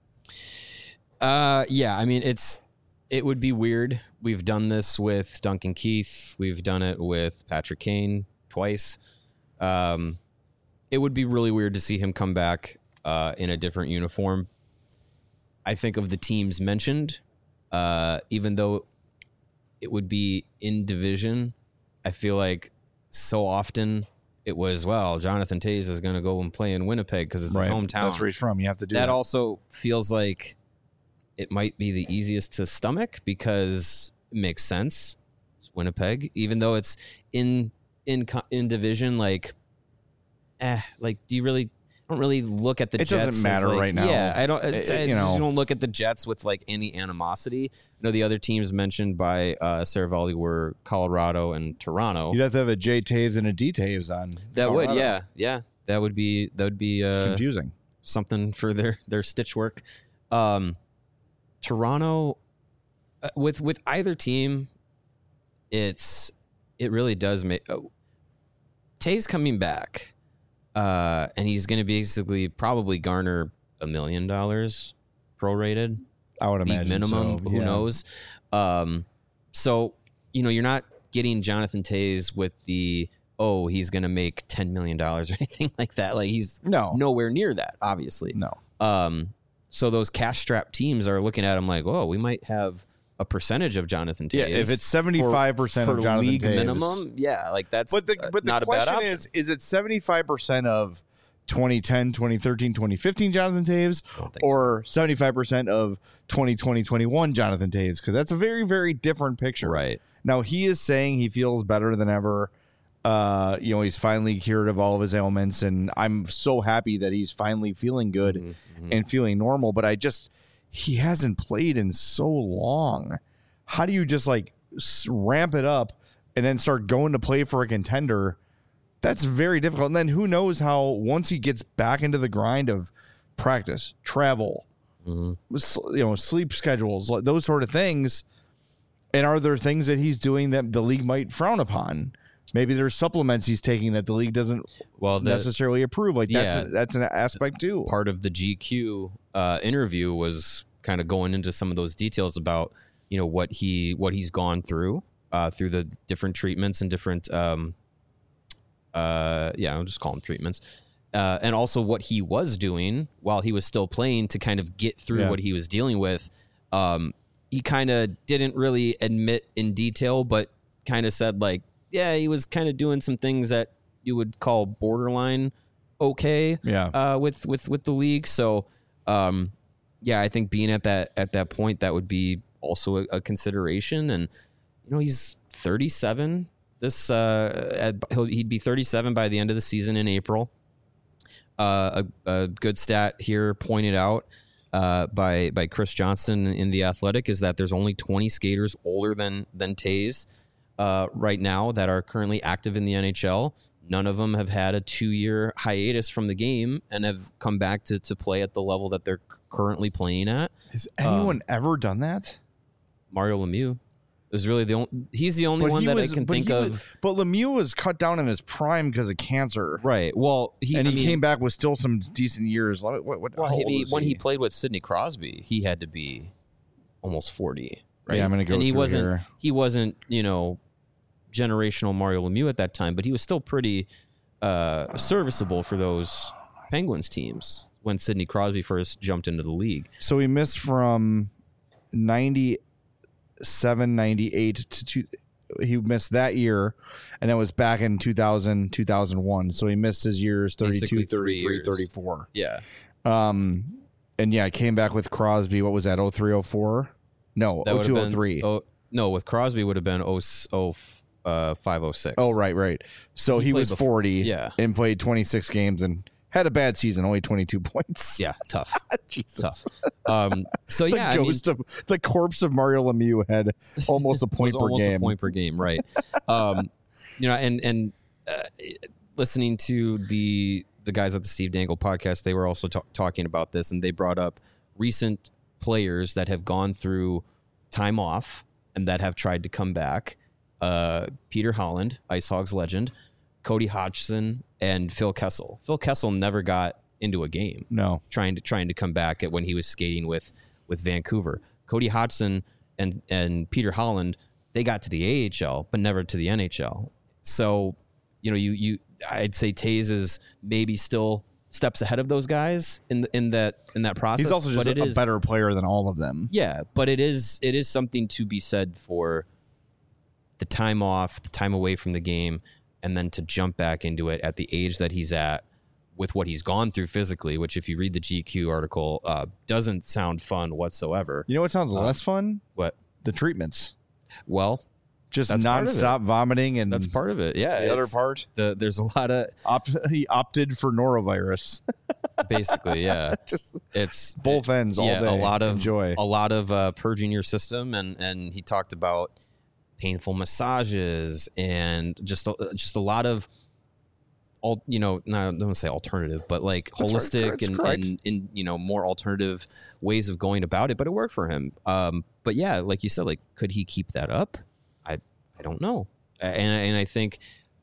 Yeah, I mean, it would be weird. We've done this with Duncan Keith. We've done it with Patrick Kane twice. It would be really weird to see him come back in a different uniform. I think of the teams mentioned, even though it would be in division, I feel like so often it was, well, Jonathan Toews is going to go and play in Winnipeg because it's his hometown. That's where he's from. You have to do that. That also feels like it might be the easiest to stomach because it makes sense. It's Winnipeg, even though it's in division. Like, do you really? I don't really look at the Jets. It doesn't matter right now. Yeah, I don't. You don't look at the Jets with like any animosity. I know the other teams mentioned by Saravalli were Colorado and Toronto. You'd have to have a J Taves and a D Taves on. That Colorado. would, yeah. That would be It's confusing. Something for their stitch work. Toronto, with either team, it really does make. Taves coming back, and he's going to basically probably garner $1 million prorated. I would imagine minimum. so. Who Yeah. knows? So you're not getting Jonathan Toews with the he's going to make $10 million or anything like that. Like he's nowhere near that. Obviously, no. So those cash-strapped teams are looking at him like, we might have a percentage of Jonathan Toews. Yeah, if it's 75% of Jonathan league Toews, minimum, that's but the not question a bad option. is it 75% of 2010, 2013, 2015 Jonathan Toews, or 75% of 2020, 21 Jonathan Toews? Because that's a very, very different picture. Right. Now, he is saying he feels better than ever. He's finally cured of all of his ailments, and I'm so happy that he's finally feeling good and feeling normal. But he hasn't played in so long. How do you just like ramp it up and then start going to play for a contender? That's very difficult. And then who knows how once he gets back into the grind of practice, travel, sleep schedules, those sort of things. And are there things that he's doing that the league might frown upon? Maybe there's supplements he's taking that the league doesn't necessarily approve. Like that's an aspect too. Part of the GQ interview was kind of going into some of those details about what he's gone through the different treatments and different I'll just call them treatments, and also what he was doing while he was still playing to kind of get through what he was dealing with. He kind of didn't really admit in detail, but kind of said like, he was kind of doing some things that you would call borderline okay. With the league. So, I think being at that point, that would be also a consideration. And he's 37. He'd be 37 by the end of the season in April. A good stat here pointed out by Chris Johnston in The Athletic is that there's only 20 skaters older than Toews right now that are currently active in the NHL. None of them have had a 2-year hiatus from the game and have come back to play at the level that they're currently playing at. Has anyone ever done that? Mario Lemieux is really he's the only one that I can think of. But Lemieux was cut down in his prime because of cancer. Right. Well, he came back with still some decent years. When he played with Sidney Crosby, he had to be almost 40. Right. Yeah, I'm going to go and through he wasn't, generational Mario Lemieux at that time, but he was still pretty serviceable for those Penguins teams when Sidney Crosby first jumped into the league. So he missed from 97, 98 to he missed that year, and it was back in 2000, 2001. So he missed his years 32, 33, 34. Yeah. Came back with Crosby. What was that? 03, 04? No, 02, 03. No, with Crosby would have been 05, 06. Oh, right. So he was 40 and played 26 games and had a bad season, only 22 points. Yeah, tough. Jesus. Tough. The corpse of Mario Lemieux had almost a point per game. A point per game, right. And listening to the guys at the Steve Dangle podcast, they were also talking about this, and they brought up recent players that have gone through time off and that have tried to come back. Peter Holland, Ice Hogs legend, Cody Hodgson, and Phil Kessel. Phil Kessel never got into a game. No, trying to come back when he was skating with Vancouver. Cody Hodgson and Peter Holland, they got to the AHL, but never to the NHL. So, I'd say Toews is maybe still steps ahead of those guys in that process. He's also just a better player than all of them. Yeah, but it is something to be said for the time off, the time away from the game. and then to jump back into it at the age that he's at with what he's gone through physically, which if you read the GQ article, doesn't sound fun whatsoever. You know what sounds less fun? What? The treatments. Well, Just that's part of nonstop vomiting, and that's part of it. Yeah. the other part, There's a lot of he opted for norovirus. basically, yeah. Just It's both ends all day. A lot of Enjoy. a lot of purging your system, and he talked about painful massages and just a lot of all, I don't want to say alternative, but like That's right. holistic That's correct. and more alternative ways of going about it. But it worked for him. But yeah, like you said, like could he keep that up? I don't know. And I think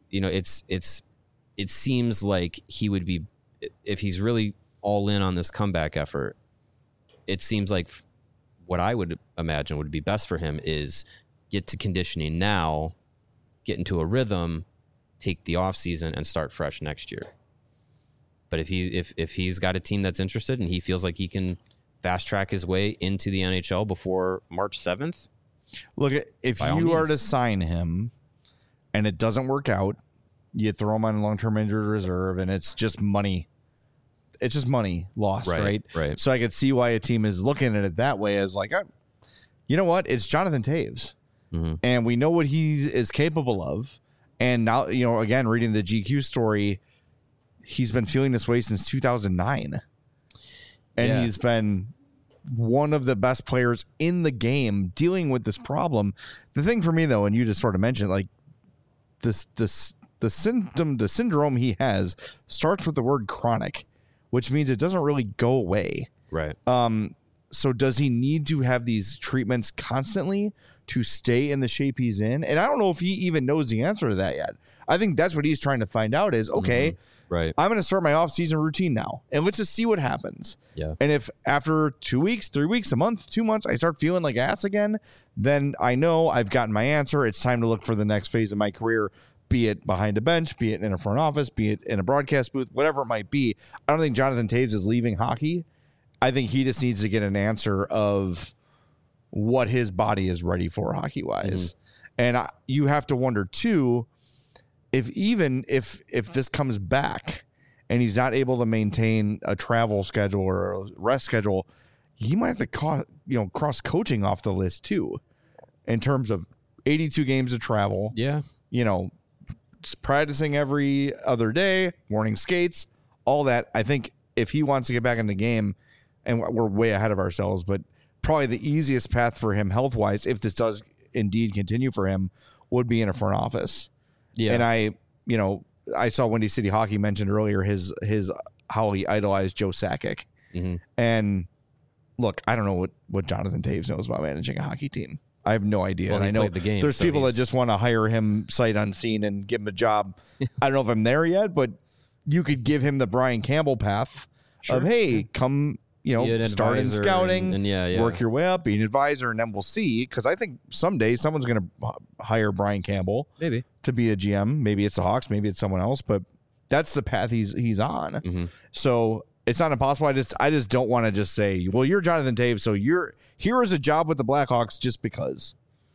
it seems like he would be, if he's really all in on this comeback effort. It seems like what I would imagine would be best for him is get to conditioning now, get into a rhythm, take the off season, and start fresh next year. But if he's got a team that's interested and he feels like he can fast track his way into the NHL before March 7th, Look, if by all you are means. to sign him and it doesn't work out, you throw him on long-term injured reserve, and it's just money. It's just money lost, right? Right. So I could see why a team is looking at it that way, as like, you know what? It's Jonathan Toews, and we know what he is capable of. And now, again, reading the GQ story, he's been feeling this way since 2009, and Yeah. he's been one of the best players in the game dealing with this problem. The thing for me, though, and you just sort of mentioned, like the syndrome he has starts with the word chronic, which means it doesn't really go away. right. So does he need to have these treatments constantly to stay in the shape he's in? And I don't know if he even knows the answer to that yet. I think that's what he's trying to find out is, okay, Right. I'm going to start my off-season routine now, and let's just see what happens. Yeah. And if after 2 weeks, 3 weeks, a month, 2 months, I start feeling like ass again, then I know I've gotten my answer. It's time to look for the next phase of my career, be it behind a bench, be it in a front office, be it in a broadcast booth, whatever it might be. I don't think Jonathan Toews is leaving hockey. I think he just needs to get an answer of what his body is ready for hockey-wise. And you have to wonder, too, if this comes back and he's not able to maintain a travel schedule or a rest schedule, he might have to cross coaching off the list too, in terms of 82 games of travel. Yeah. Just practicing every other day, morning skates, all that. I think if he wants to get back in the game, and we're way ahead of ourselves, but probably the easiest path for him health-wise, if this does indeed continue for him, would be in a front office. Yeah. And I saw Windy City Hockey mentioned earlier his how he idolized Joe Sakic. And look, I don't know what Jonathan Toews knows about managing a hockey team. I have no idea. Well, and he I know played the game, there's so people that he's- just want to hire him sight unseen and give him a job. I don't know if I'm there yet, but you could give him the Brian Campbell path of, hey, come, Be an start in advisor scouting, and yeah. work your way up, be an advisor, and then we'll see. Because I think someday someone's going to hire Brian Campbell Maybe. to be a GM. Maybe it's the Hawks, maybe it's someone else, but that's the path he's on. So it's not impossible. I just don't want to just say, well, you're Jonathan Toews, so here is a job with the Blackhawks just because.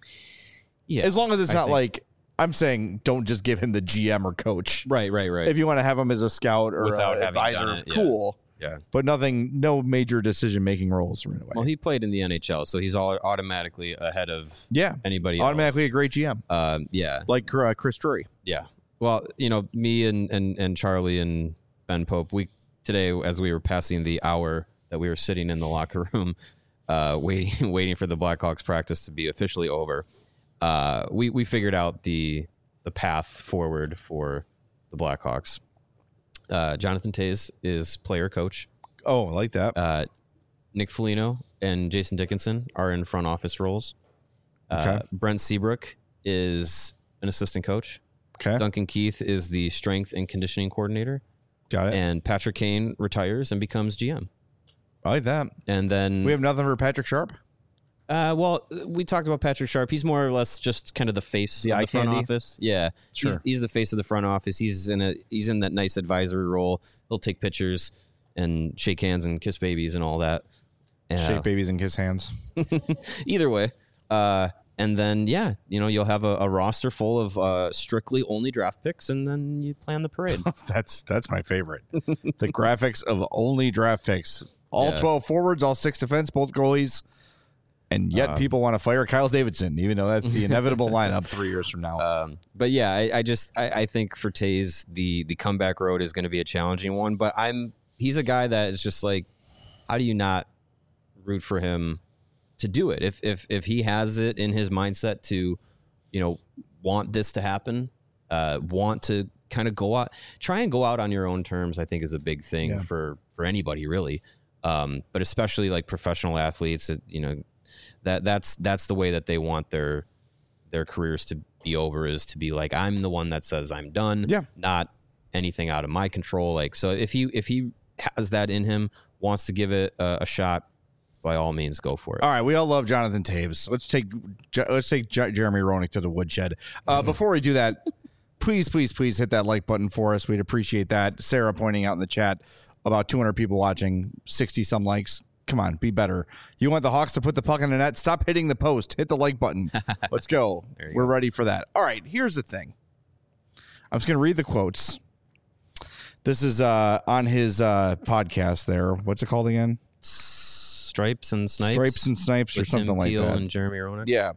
Yeah. As long as it's I not think- like, I'm saying don't just give him the GM or coach. Right. If you want to have him as a scout or Without an having done advisor, it, yeah. cool. Yeah. But no major decision-making roles right away. Well, he played in the NHL, so he's automatically ahead of yeah. anybody Automatically else. a great GM. Yeah. Like Chris Drury. Yeah. Well, me and Charlie and Ben Pope, today, as we were passing the hour that we were sitting in the locker room, waiting for the Blackhawks practice to be officially over, we figured out the path forward for the Blackhawks. Jonathan Toews is player coach. Oh, I like that. Nick Foligno and Jason Dickinson are in front office roles. Okay. Brent Seabrook is an assistant coach. Okay. Duncan Keith is the strength and conditioning coordinator. Got it. And Patrick Kane retires and becomes GM. I like that. And then We have nothing for Patrick Sharp. well, we talked about Patrick Sharp. He's more or less just kind of the face The of eye the front candy? office. Yeah, Sure. He's the face of the front office. He's in that nice advisory role. He'll take pictures and shake hands and kiss babies and all that. Shake babies and kiss hands. Either way, And then, you'll have a roster full of strictly only draft picks, and then you plan the parade. That's my favorite. The graphics of only draft picks. All 12 forwards, all 6 defense, both goalies. And yet people want to fire Kyle Davidson, even though that's the inevitable lineup 3 years from now. But yeah, I think for Taves, the comeback road is going to be a challenging one. But he's a guy that is just like, how do you not root for him to do it? If he has it in his mindset to, want this to happen, want to kind of try and go out on your own terms, I think is a big thing for anybody really. But especially like professional athletes, that's the way that they want their careers to be over, is to be like, I'm the one that says I'm done, not anything out of my control. Like, so if he has that in him, wants to give it a shot, by all means, go for it. All right, we all love Jonathan Taves. Let's take Jeremy Roenick to the woodshed. Before we do that, please hit that like button for us. We'd appreciate that. Sarah pointing out in the chat, about 200 people watching, 60 some likes. Come on, be better. You want the Hawks to put the puck in the net? Stop hitting the post. Hit the like button. Let's go. We're ready for that. All right, here's the thing. I'm just going to read the quotes. This is on his podcast there. What's it called again? Stripes and Snipes. Stripes and Snipes or something like that. And Jeremy Roenick. Yeah.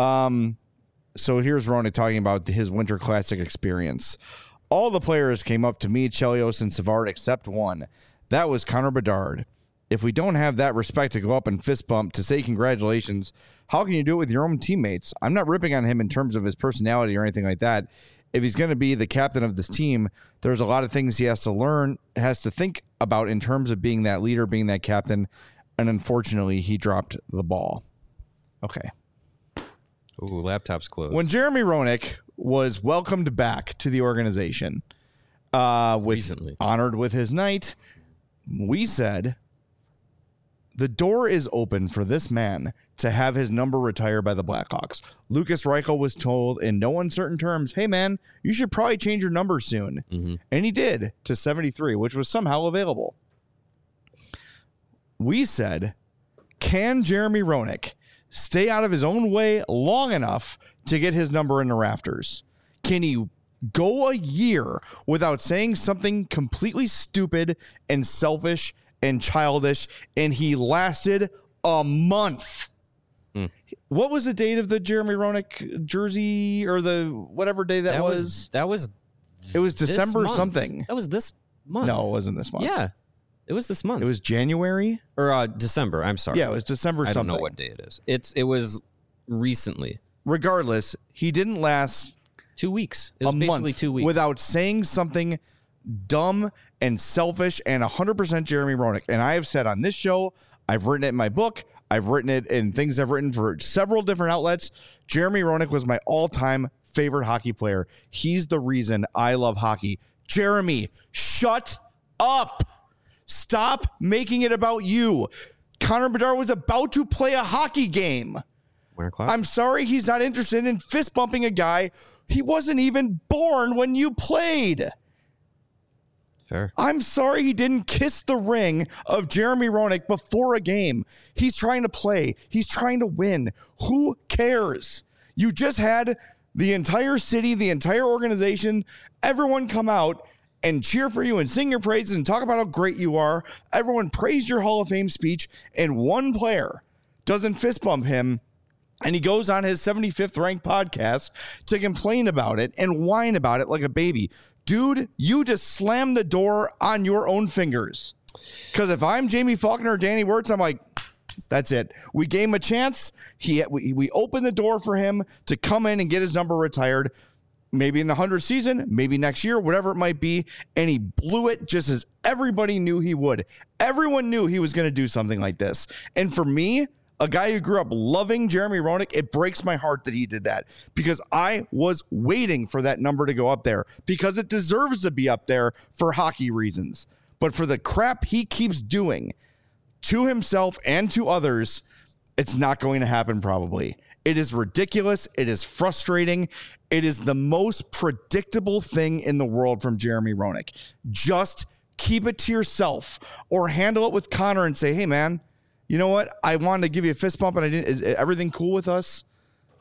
So here's Roenick talking about his Winter Classic experience. All the players came up to me, Chelios, and Savard except one. That was Connor Bedard. If we don't have that respect to go up and fist bump to say congratulations, how can you do it with your own teammates? I'm not ripping on him in terms of his personality or anything like that. If he's going to be the captain of this team, there's a lot of things he has to learn, has to think about in terms of being that leader, being that captain. And unfortunately, he dropped the ball. Okay. Ooh, laptop's closed. When Jeremy Roenick was welcomed back to the organization, Recently. Honored with his night, we said, the door is open for this man to have his number retired by the Blackhawks. Lucas Reichel was told in no uncertain terms, hey, man, you should probably change your number soon. Mm-hmm. And he did, to 73, which was somehow available. We said, can Jeremy Roenick stay out of his own way long enough to get his number in the rafters? Can he go a year without saying something completely stupid and selfish and childish? And he lasted a month. What was the date of the Jeremy Roenick jersey, or the whatever day that was? It was December something. That was this month. No, it wasn't this month. Yeah. It was this month. It was January? Or December, I'm sorry. Yeah, it was December something. I don't know what day it is. It was recently. Regardless, he didn't last 2 weeks. It was basically month 2 weeks. without saying something dumb and selfish and 100% Jeremy Roenick. And I have said on this show, I've written it in my book, I've written it in things I've written for several different outlets. Jeremy Roenick was my all-time favorite hockey player. He's the reason I love hockey. Jeremy, shut up. Stop making it about you. Connor Bedard was about to play a hockey game. I'm sorry he's not interested in fist bumping a guy. He wasn't even born when you played. Fair. I'm sorry he didn't kiss the ring of Jeremy Roenick before a game. He's trying to play. He's trying to win. Who cares? You just had the entire city, the entire organization, everyone come out and cheer for you and sing your praises and talk about how great you are. Everyone praised your Hall of Fame speech, and one player doesn't fist bump him, and he goes on his 75th ranked podcast to complain about it and whine about it like a baby. Dude, you just slammed the door on your own fingers. Because if I'm Jamie Faulkner or Danny Wirtz, I'm like, that's it. We gave him a chance. We opened the door for him to come in and get his number retired. Maybe in the 100th season, maybe next year, whatever it might be. And he blew it just as everybody knew he would. Everyone knew he was going to do something like this. And for me, a guy who grew up loving Jeremy Roenick, it breaks my heart that he did that, because I was waiting for that number to go up there, because it deserves to be up there for hockey reasons. But for the crap he keeps doing to himself and to others, it's not going to happen probably. It is ridiculous. It is frustrating. It is the most predictable thing in the world from Jeremy Roenick. Just keep it to yourself, or handle it with Connor and say, hey, man, you know what? I wanted to give you a fist bump and I didn't. Is everything cool with us?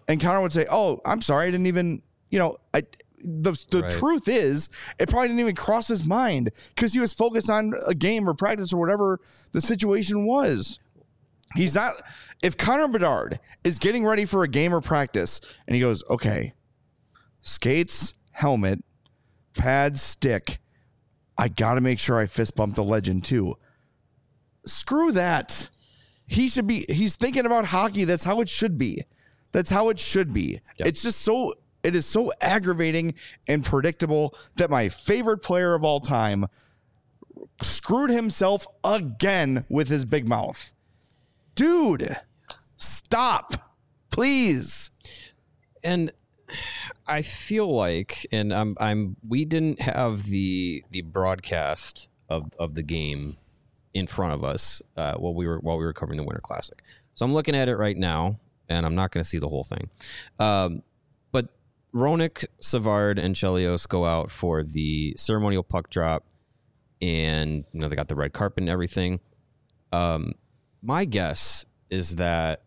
And Connor would say, "Oh, I'm sorry, I didn't even, the truth is, it probably didn't even cross his mind because he was focused on a game or practice or whatever the situation was. He's not. If Connor Bedard is getting ready for a game or practice and he goes, okay, skates, helmet, pad, stick, I got to make sure I fist bump the legend too. Screw that. He's thinking about hockey. That's how it should be. That's how it should be. Yep. It's just it is so aggravating and predictable that my favorite player of all time screwed himself again with his big mouth. Dude, stop, please. And I feel like, and we didn't have the broadcast of the game in front of us while we were covering the Winter Classic. So I'm looking at it right now, and I'm not going to see the whole thing. But Roenick, Savard, and Chelios go out for the ceremonial puck drop, and they got the red carpet and everything. My guess is that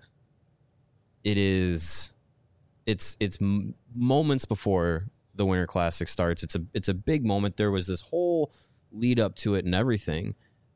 it's moments before the Winter Classic starts. It's a big moment. There was this whole lead up to it and everything.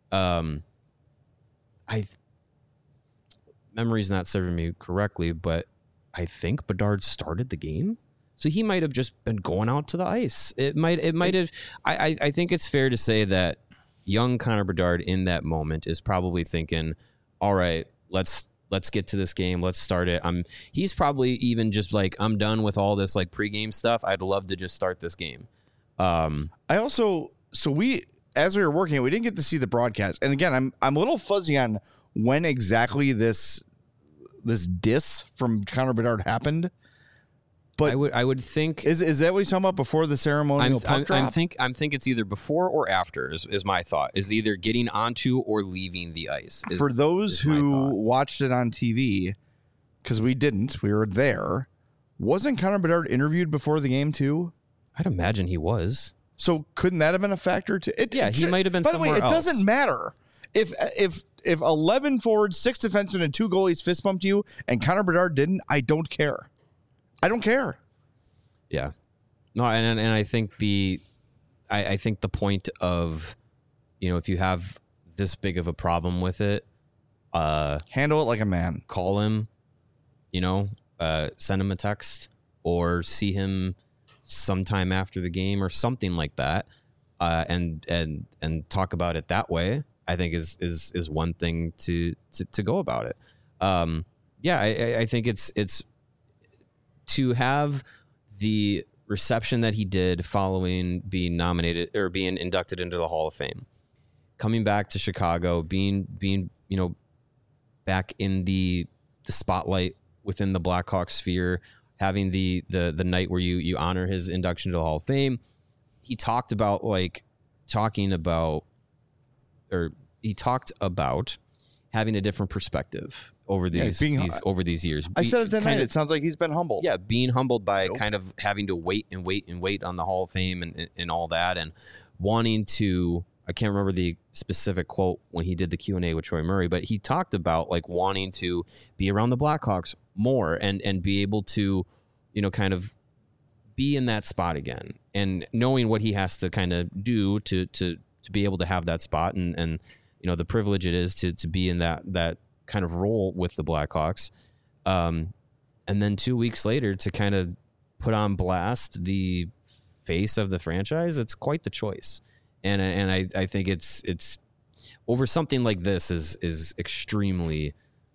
Memory's not serving me correctly, but I think Bedard started the game. So he might have just been going out to the ice. It might have. I think it's fair to say that young Connor Bedard in that moment is probably thinking, all right, let's get to this game. Let's start it. He's probably even just like, I'm done with all this like pregame stuff. I'd love to just start this game. As we were working, we didn't get to see the broadcast. And again, I'm a little fuzzy on when exactly this diss from Connor Bedard happened. But I would think is that what he's talking about before the ceremonial puck drop? I think it's either before or after is my thought. Is either getting onto or leaving the ice. For those who watched it on TV, because we didn't, we were there. Wasn't Connor Bedard interviewed before the game too? I'd imagine he was. So couldn't that have been a factor too? He might have been. By the way, it doesn't matter if 11 forwards, 6 defensemen, and 2 goalies fist bumped you, and Connor Bedard didn't. I don't care. I don't care. Yeah. No, and I think I think the point of, if you have this big of a problem with it, handle it like a man. Call him, send him a text or see him sometime after the game or something like that, and talk about it that way. I think is one thing to go about it. I think it's to have the reception that he did following being nominated or being inducted into the Hall of Fame, coming back to Chicago, being back in the spotlight within the Blackhawks sphere, having the night where you honor his induction to the Hall of Fame. He talked about having a different perspective over these years. I said it that night. It sounds like he's been humbled. Yeah, being humbled by kind of having to wait on the Hall of Fame and all that, and wanting to. I can't remember the specific quote when he did the Q&A with Troy Murray, but he talked about like wanting to be around the Blackhawks more and be able to, kind of be in that spot again, and knowing what he has to kind of do to be able to have that spot and the privilege it is to be in that kind of role with the Blackhawks. And then 2 weeks later to kind of put on blast the face of the franchise. It's quite the choice. And I think it's over something like this is extremely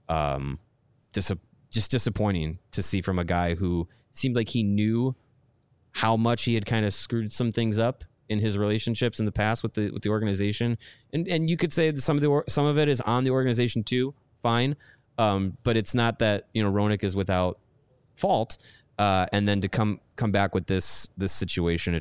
just disappointing to see from a guy who seemed like he knew how much he had kind of screwed some things up in his relationships in the past with the organization, and you could say that some of it is on the organization too. Fine, but it's not that Roenick is without fault, and then to come back with this situation,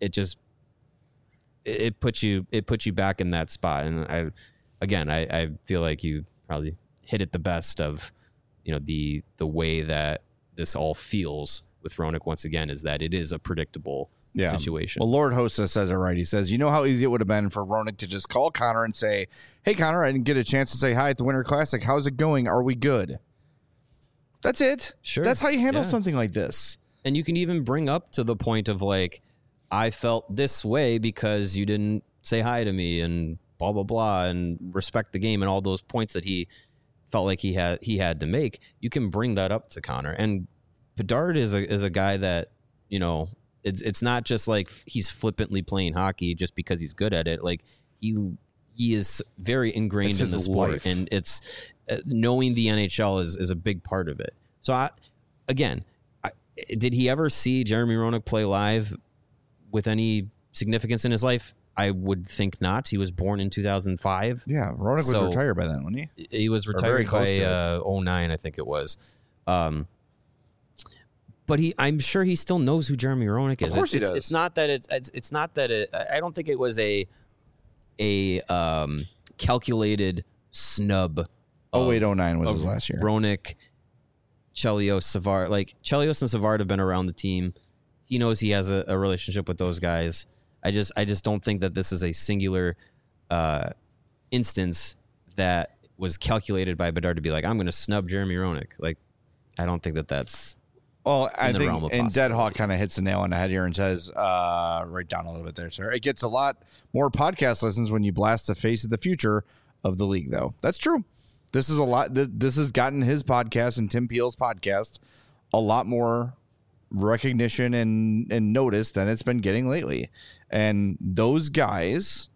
it puts you back in that spot. And I feel like you probably hit it the best of the way that this all feels with Roenick once again, is that it is a predictable situation. Well, Lord Hossa says it right. He says, how easy it would have been for Roenick to just call Connor and say, hey, Connor, I didn't get a chance to say hi at the Winter Classic. How's it going? Are we good? That's it. Sure. That's how you handle Yeah. something like this. And you can even bring up to the point of like, I felt this way because you didn't say hi to me and blah, blah, blah, and respect the game and all those points that he felt like he had to make. You can bring that up to Connor. And Bedard is a guy that, you know, it's not just like he's flippantly playing hockey just because he's good at it. Like he is very ingrained in the sport, life. and it's knowing the NHL is a big part of it. So did he ever see Jeremy Roenick play live with any significance in his life? I would think not. He was born in 2005. Yeah, Roenick was retired by then, wasn't he? He was very retired close by to 09, I think it was. But I'm sure he still knows who Jeremy Roenick is. Of course he does. It's not that it's not that it. I don't think it was a calculated snub. 08-09 was his last year. Roenick, Chelios, Savard. Like Chelios and Savard have been around the team. He knows he has a relationship with those guys. I just don't think that this is a singular instance that was calculated by Bedard to be like, I'm going to snub Jeremy Roenick. Like, I don't think that's. Well, I the realm think, of and possibility. Deadhawk kind of hits the nail on the head here and says, right down a little bit there, sir. It gets a lot more podcast listens when you blast the face of the future of the league, though. That's true. This is a lot. This has gotten his podcast and Tim Peel's podcast a lot more recognition and notice than it's been getting lately. And those guys,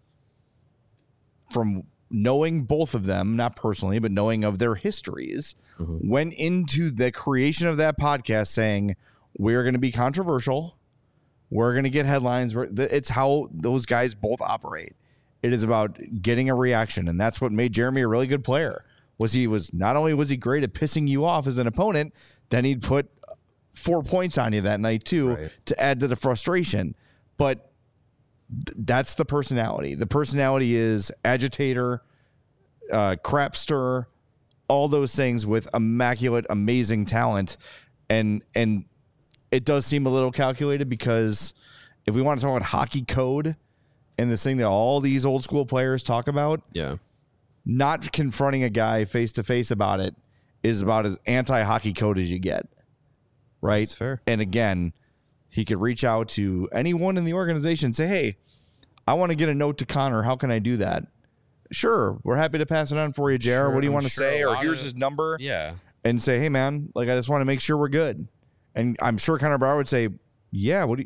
from knowing both of them, not personally, but knowing of their histories, went into the creation of that podcast saying, we're going to be controversial. We're going to get headlines. It's how those guys both operate. It is about getting a reaction. And that's what made Jeremy a really good player. Not only was he great at pissing you off as an opponent, then he'd put 4 points on you that night too, Right. to add to the frustration. But that's the personality. The personality is agitator, crapster, all those things with immaculate, amazing talent. And it does seem a little calculated, because if we want to talk about hockey code and this thing that all these old school players talk about, Yeah. not confronting a guy face to face about it is about as anti-hockey code as you get. Right? That's fair. And again, he could reach out to anyone in the organization and say, hey, I want to get a note to Connor. How can I do that? Sure. We're happy to pass it on for you, JR. What do you want to say? Or here's his number. Yeah. And say, hey, man, like, I just want to make sure we're good. And I'm sure Connor Brower would say, yeah, what do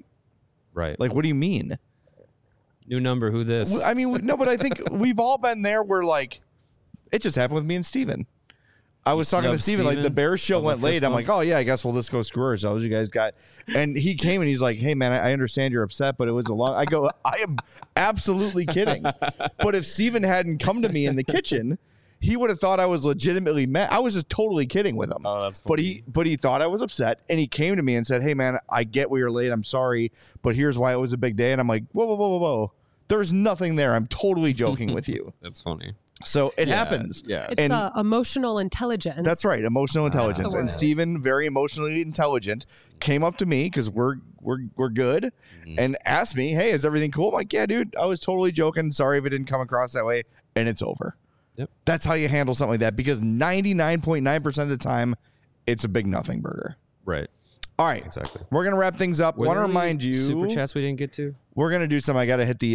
you mean? New number, who this? I mean, no, but I think we've all been there where, like, it just happened with me and Steven. I was talking to snubbed Steven, like, the Steven Bears show of the went late. fist I'm bump? like, oh, yeah, I guess we'll just go screw ourselves. You guys got. And he came and he's like, hey, man, I understand you're upset, but it was a long. I go, I am absolutely kidding. But if Steven hadn't come to me in the kitchen, he would have thought I was legitimately mad. I was just totally kidding with him. Oh, that's funny. But he thought I was upset, and he came to me and said, hey, man, I get we were late. I'm sorry, but here's why it was a big day. And I'm like, whoa. There's nothing there. I'm totally joking with you. That's funny. So it happens. Yeah. It's emotional intelligence. That's right, emotional intelligence. the And word. Steven, very emotionally intelligent, came up to me because we're good, and asked me, "Hey, is everything cool?" I'm like, "Yeah, dude. I was totally joking. Sorry if it didn't come across that way." And it's over. Yep. That's how you handle something like that, because 99.9% of the time, it's a big nothing burger. Right. All right, Exactly. we're gonna wrap things up. Want to remind you, Super chats we didn't get to? we're gonna do some. I gotta hit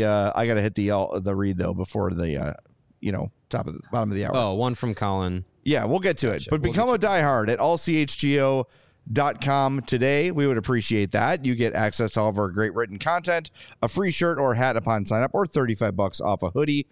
the read though before the bottom of the hour. Oh, one from Colin. Yeah, we'll get to it. But become a diehard at allchgo.com today. We would appreciate that. You get access to all of our great written content, a free shirt or hat upon sign up, or $35 off a hoodie,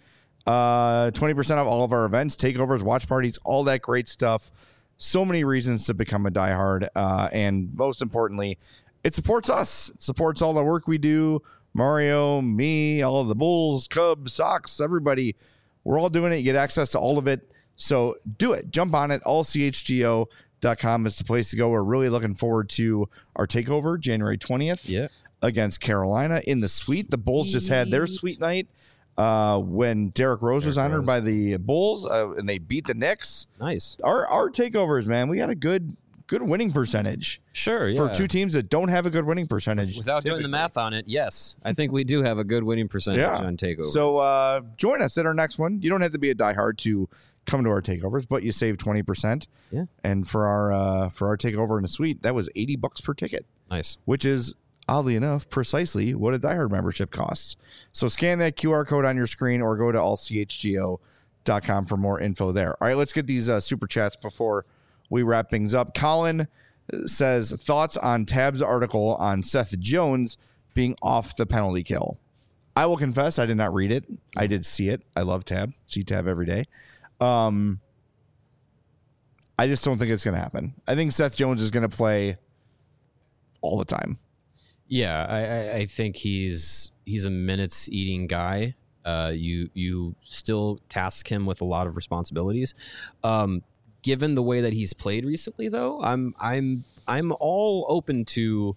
20% off all of our events, takeovers, watch parties, all that great stuff. So many reasons to become a diehard. And most importantly, it supports us. It supports all the work we do. Mario, me, all of the Bulls, Cubs, Sox, everybody. We're all doing it. You get access to all of it. So do it. Jump on it. Allchgo.com is the place to go. We're really looking forward to our takeover January 20th against Carolina in the suite. The Bulls just had their suite night when Derrick Rose was honored by the Bulls, and they beat the Knicks. Nice. Our takeovers, man, we got a good winning percentage. Sure, yeah. For two teams that don't have a good winning percentage. Without doing the math on it, yes. I think we do have a good winning percentage on takeovers. So join us at our next one. You don't have to be a diehard to come to our takeovers, but you save 20%. Yeah. And for our takeover in the suite, that was $80 per ticket. Nice. Which is, oddly enough, precisely what a Die Hard membership costs. So scan that QR code on your screen or go to allchgo.com for more info there. All right, let's get these super chats before we wrap things up. Colin says, thoughts on Tab's article on Seth Jones being off the penalty kill. I will confess, I did not read it. I did see it. I love Tab. See Tab every day. I just don't think it's going to happen. I think Seth Jones is going to play all the time. Yeah, I think he's a minutes eating guy. You still task him with a lot of responsibilities. Given the way that he's played recently, though, I'm all open to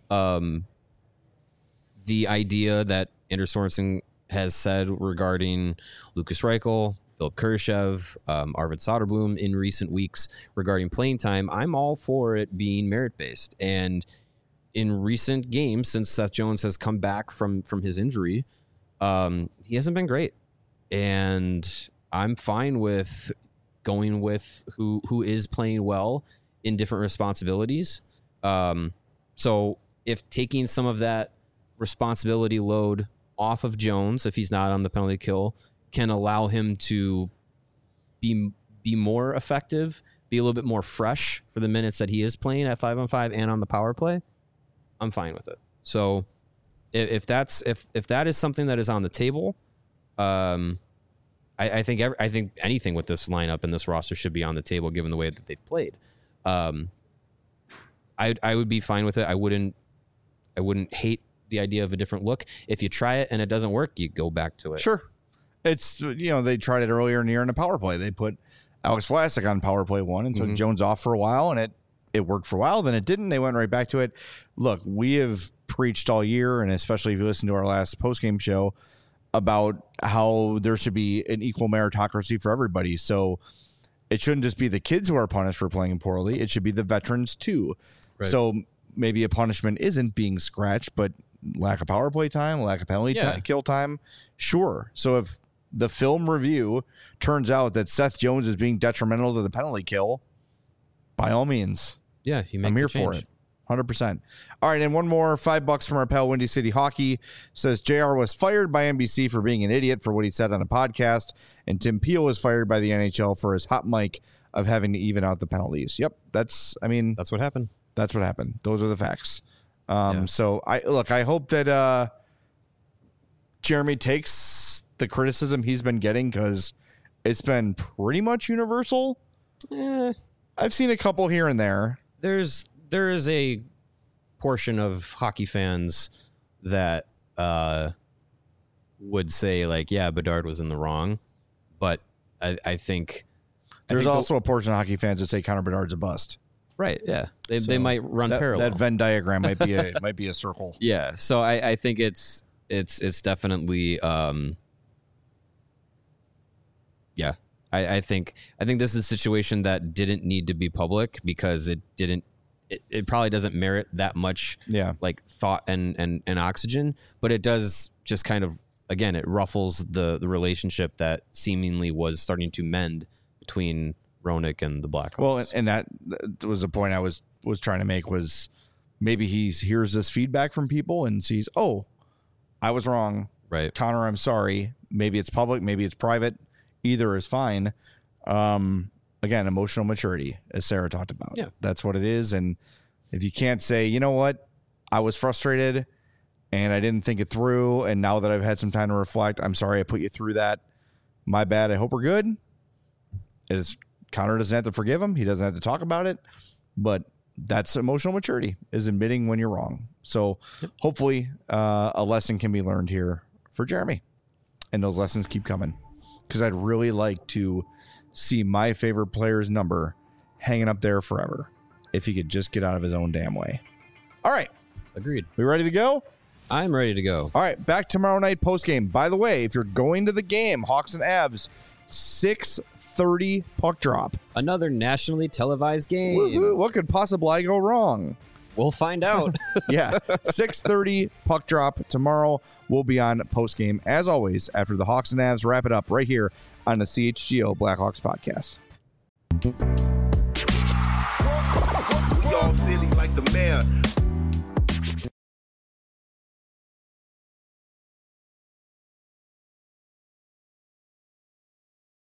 the idea that Anders Sorensen has said regarding Lucas Reichel, Philip Kurashev, Arvid Soderblom in recent weeks regarding playing time. I'm all for it being merit-based. And in recent games, since Seth Jones has come back from his injury, he hasn't been great. And I'm fine with going with who is playing well in different responsibilities. So if taking some of that responsibility load off of Jones, if he's not on the penalty kill, can allow him to be more effective, be a little bit more fresh for the minutes that he is playing at 5-on-5 and on the power play, I'm fine with it. So if that is something that is on the table, I think anything with this lineup and this roster should be on the table given the way that they've played. I would be fine with it. I wouldn't hate the idea of a different look. If you try it and it doesn't work, you go back to it. Sure. It's, they tried it earlier in the year in the power play. They put Alex Vlasic on power play 1 and took Jones off for a while, and it worked for a while. Then it didn't. They went right back to it. Look, we have preached all year, and especially if you listen to our last postgame show, about how there should be an equal meritocracy for everybody. So it shouldn't just be the kids who are punished for playing poorly. It should be the veterans too. Right. So maybe a punishment isn't being scratched, but lack of power play time, lack of penalty kill time. Sure. So if the film review turns out that Seth Jones is being detrimental to the penalty kill, by all means. Yeah, I'm here for it. 100%. All right, and one more, $5 from our pal Windy City Hockey. Says JR was fired by NBC for being an idiot for what he said on a podcast, and Tim Peel was fired by the NHL for his hot mic of having to even out the penalties. Yep, that's what happened. That's what happened. Those are the facts. So I hope that Jeremy takes the criticism he's been getting, because it's been pretty much universal. I've seen a couple here and there. There is a portion of hockey fans that would say, like, yeah, Bedard was in the wrong, but I think there's also a portion of hockey fans that say Connor Bedard's a bust. Right. Yeah. They might run parallel. That Venn diagram might be a circle. Yeah. So I think it's definitely yeah. I think this is a situation that didn't need to be public, because it probably doesn't merit that much like thought and oxygen, but it does just kind of, again, it ruffles the relationship that seemingly was starting to mend between Roenick and the Blackhawks. Well, and that was the point I was trying to make, was maybe he hears this feedback from people and sees, oh, I was wrong. Right. Connor, I'm sorry. Maybe it's public, maybe it's private. Either is fine. Again, emotional maturity, as Sarah talked about. Yeah. That's what it is. And if you can't say, you know what, I was frustrated and I didn't think it through, and now that I've had some time to reflect, I'm sorry I put you through that. My bad. I hope we're good. Connor doesn't have to forgive him. He doesn't have to talk about it. But that's emotional maturity, is admitting when you're wrong. So hopefully a lesson can be learned here for Jeremy. And those lessons keep coming. Because I'd really like to see my favorite player's number hanging up there forever, if he could just get out of his own damn way. All right. Agreed. We ready to go? I'm ready to go. All right. Back tomorrow night postgame. By the way, if you're going to the game, Hawks and Avs, 6:30 puck drop. Another nationally televised game. Woo-hoo. What could possibly go wrong? We'll find out. Yeah, 6:30 puck drop tomorrow. We'll be on post game as always after the Hawks and Avs wrap it up right here on the CHGO Blackhawks podcast. We all silly like the mayor.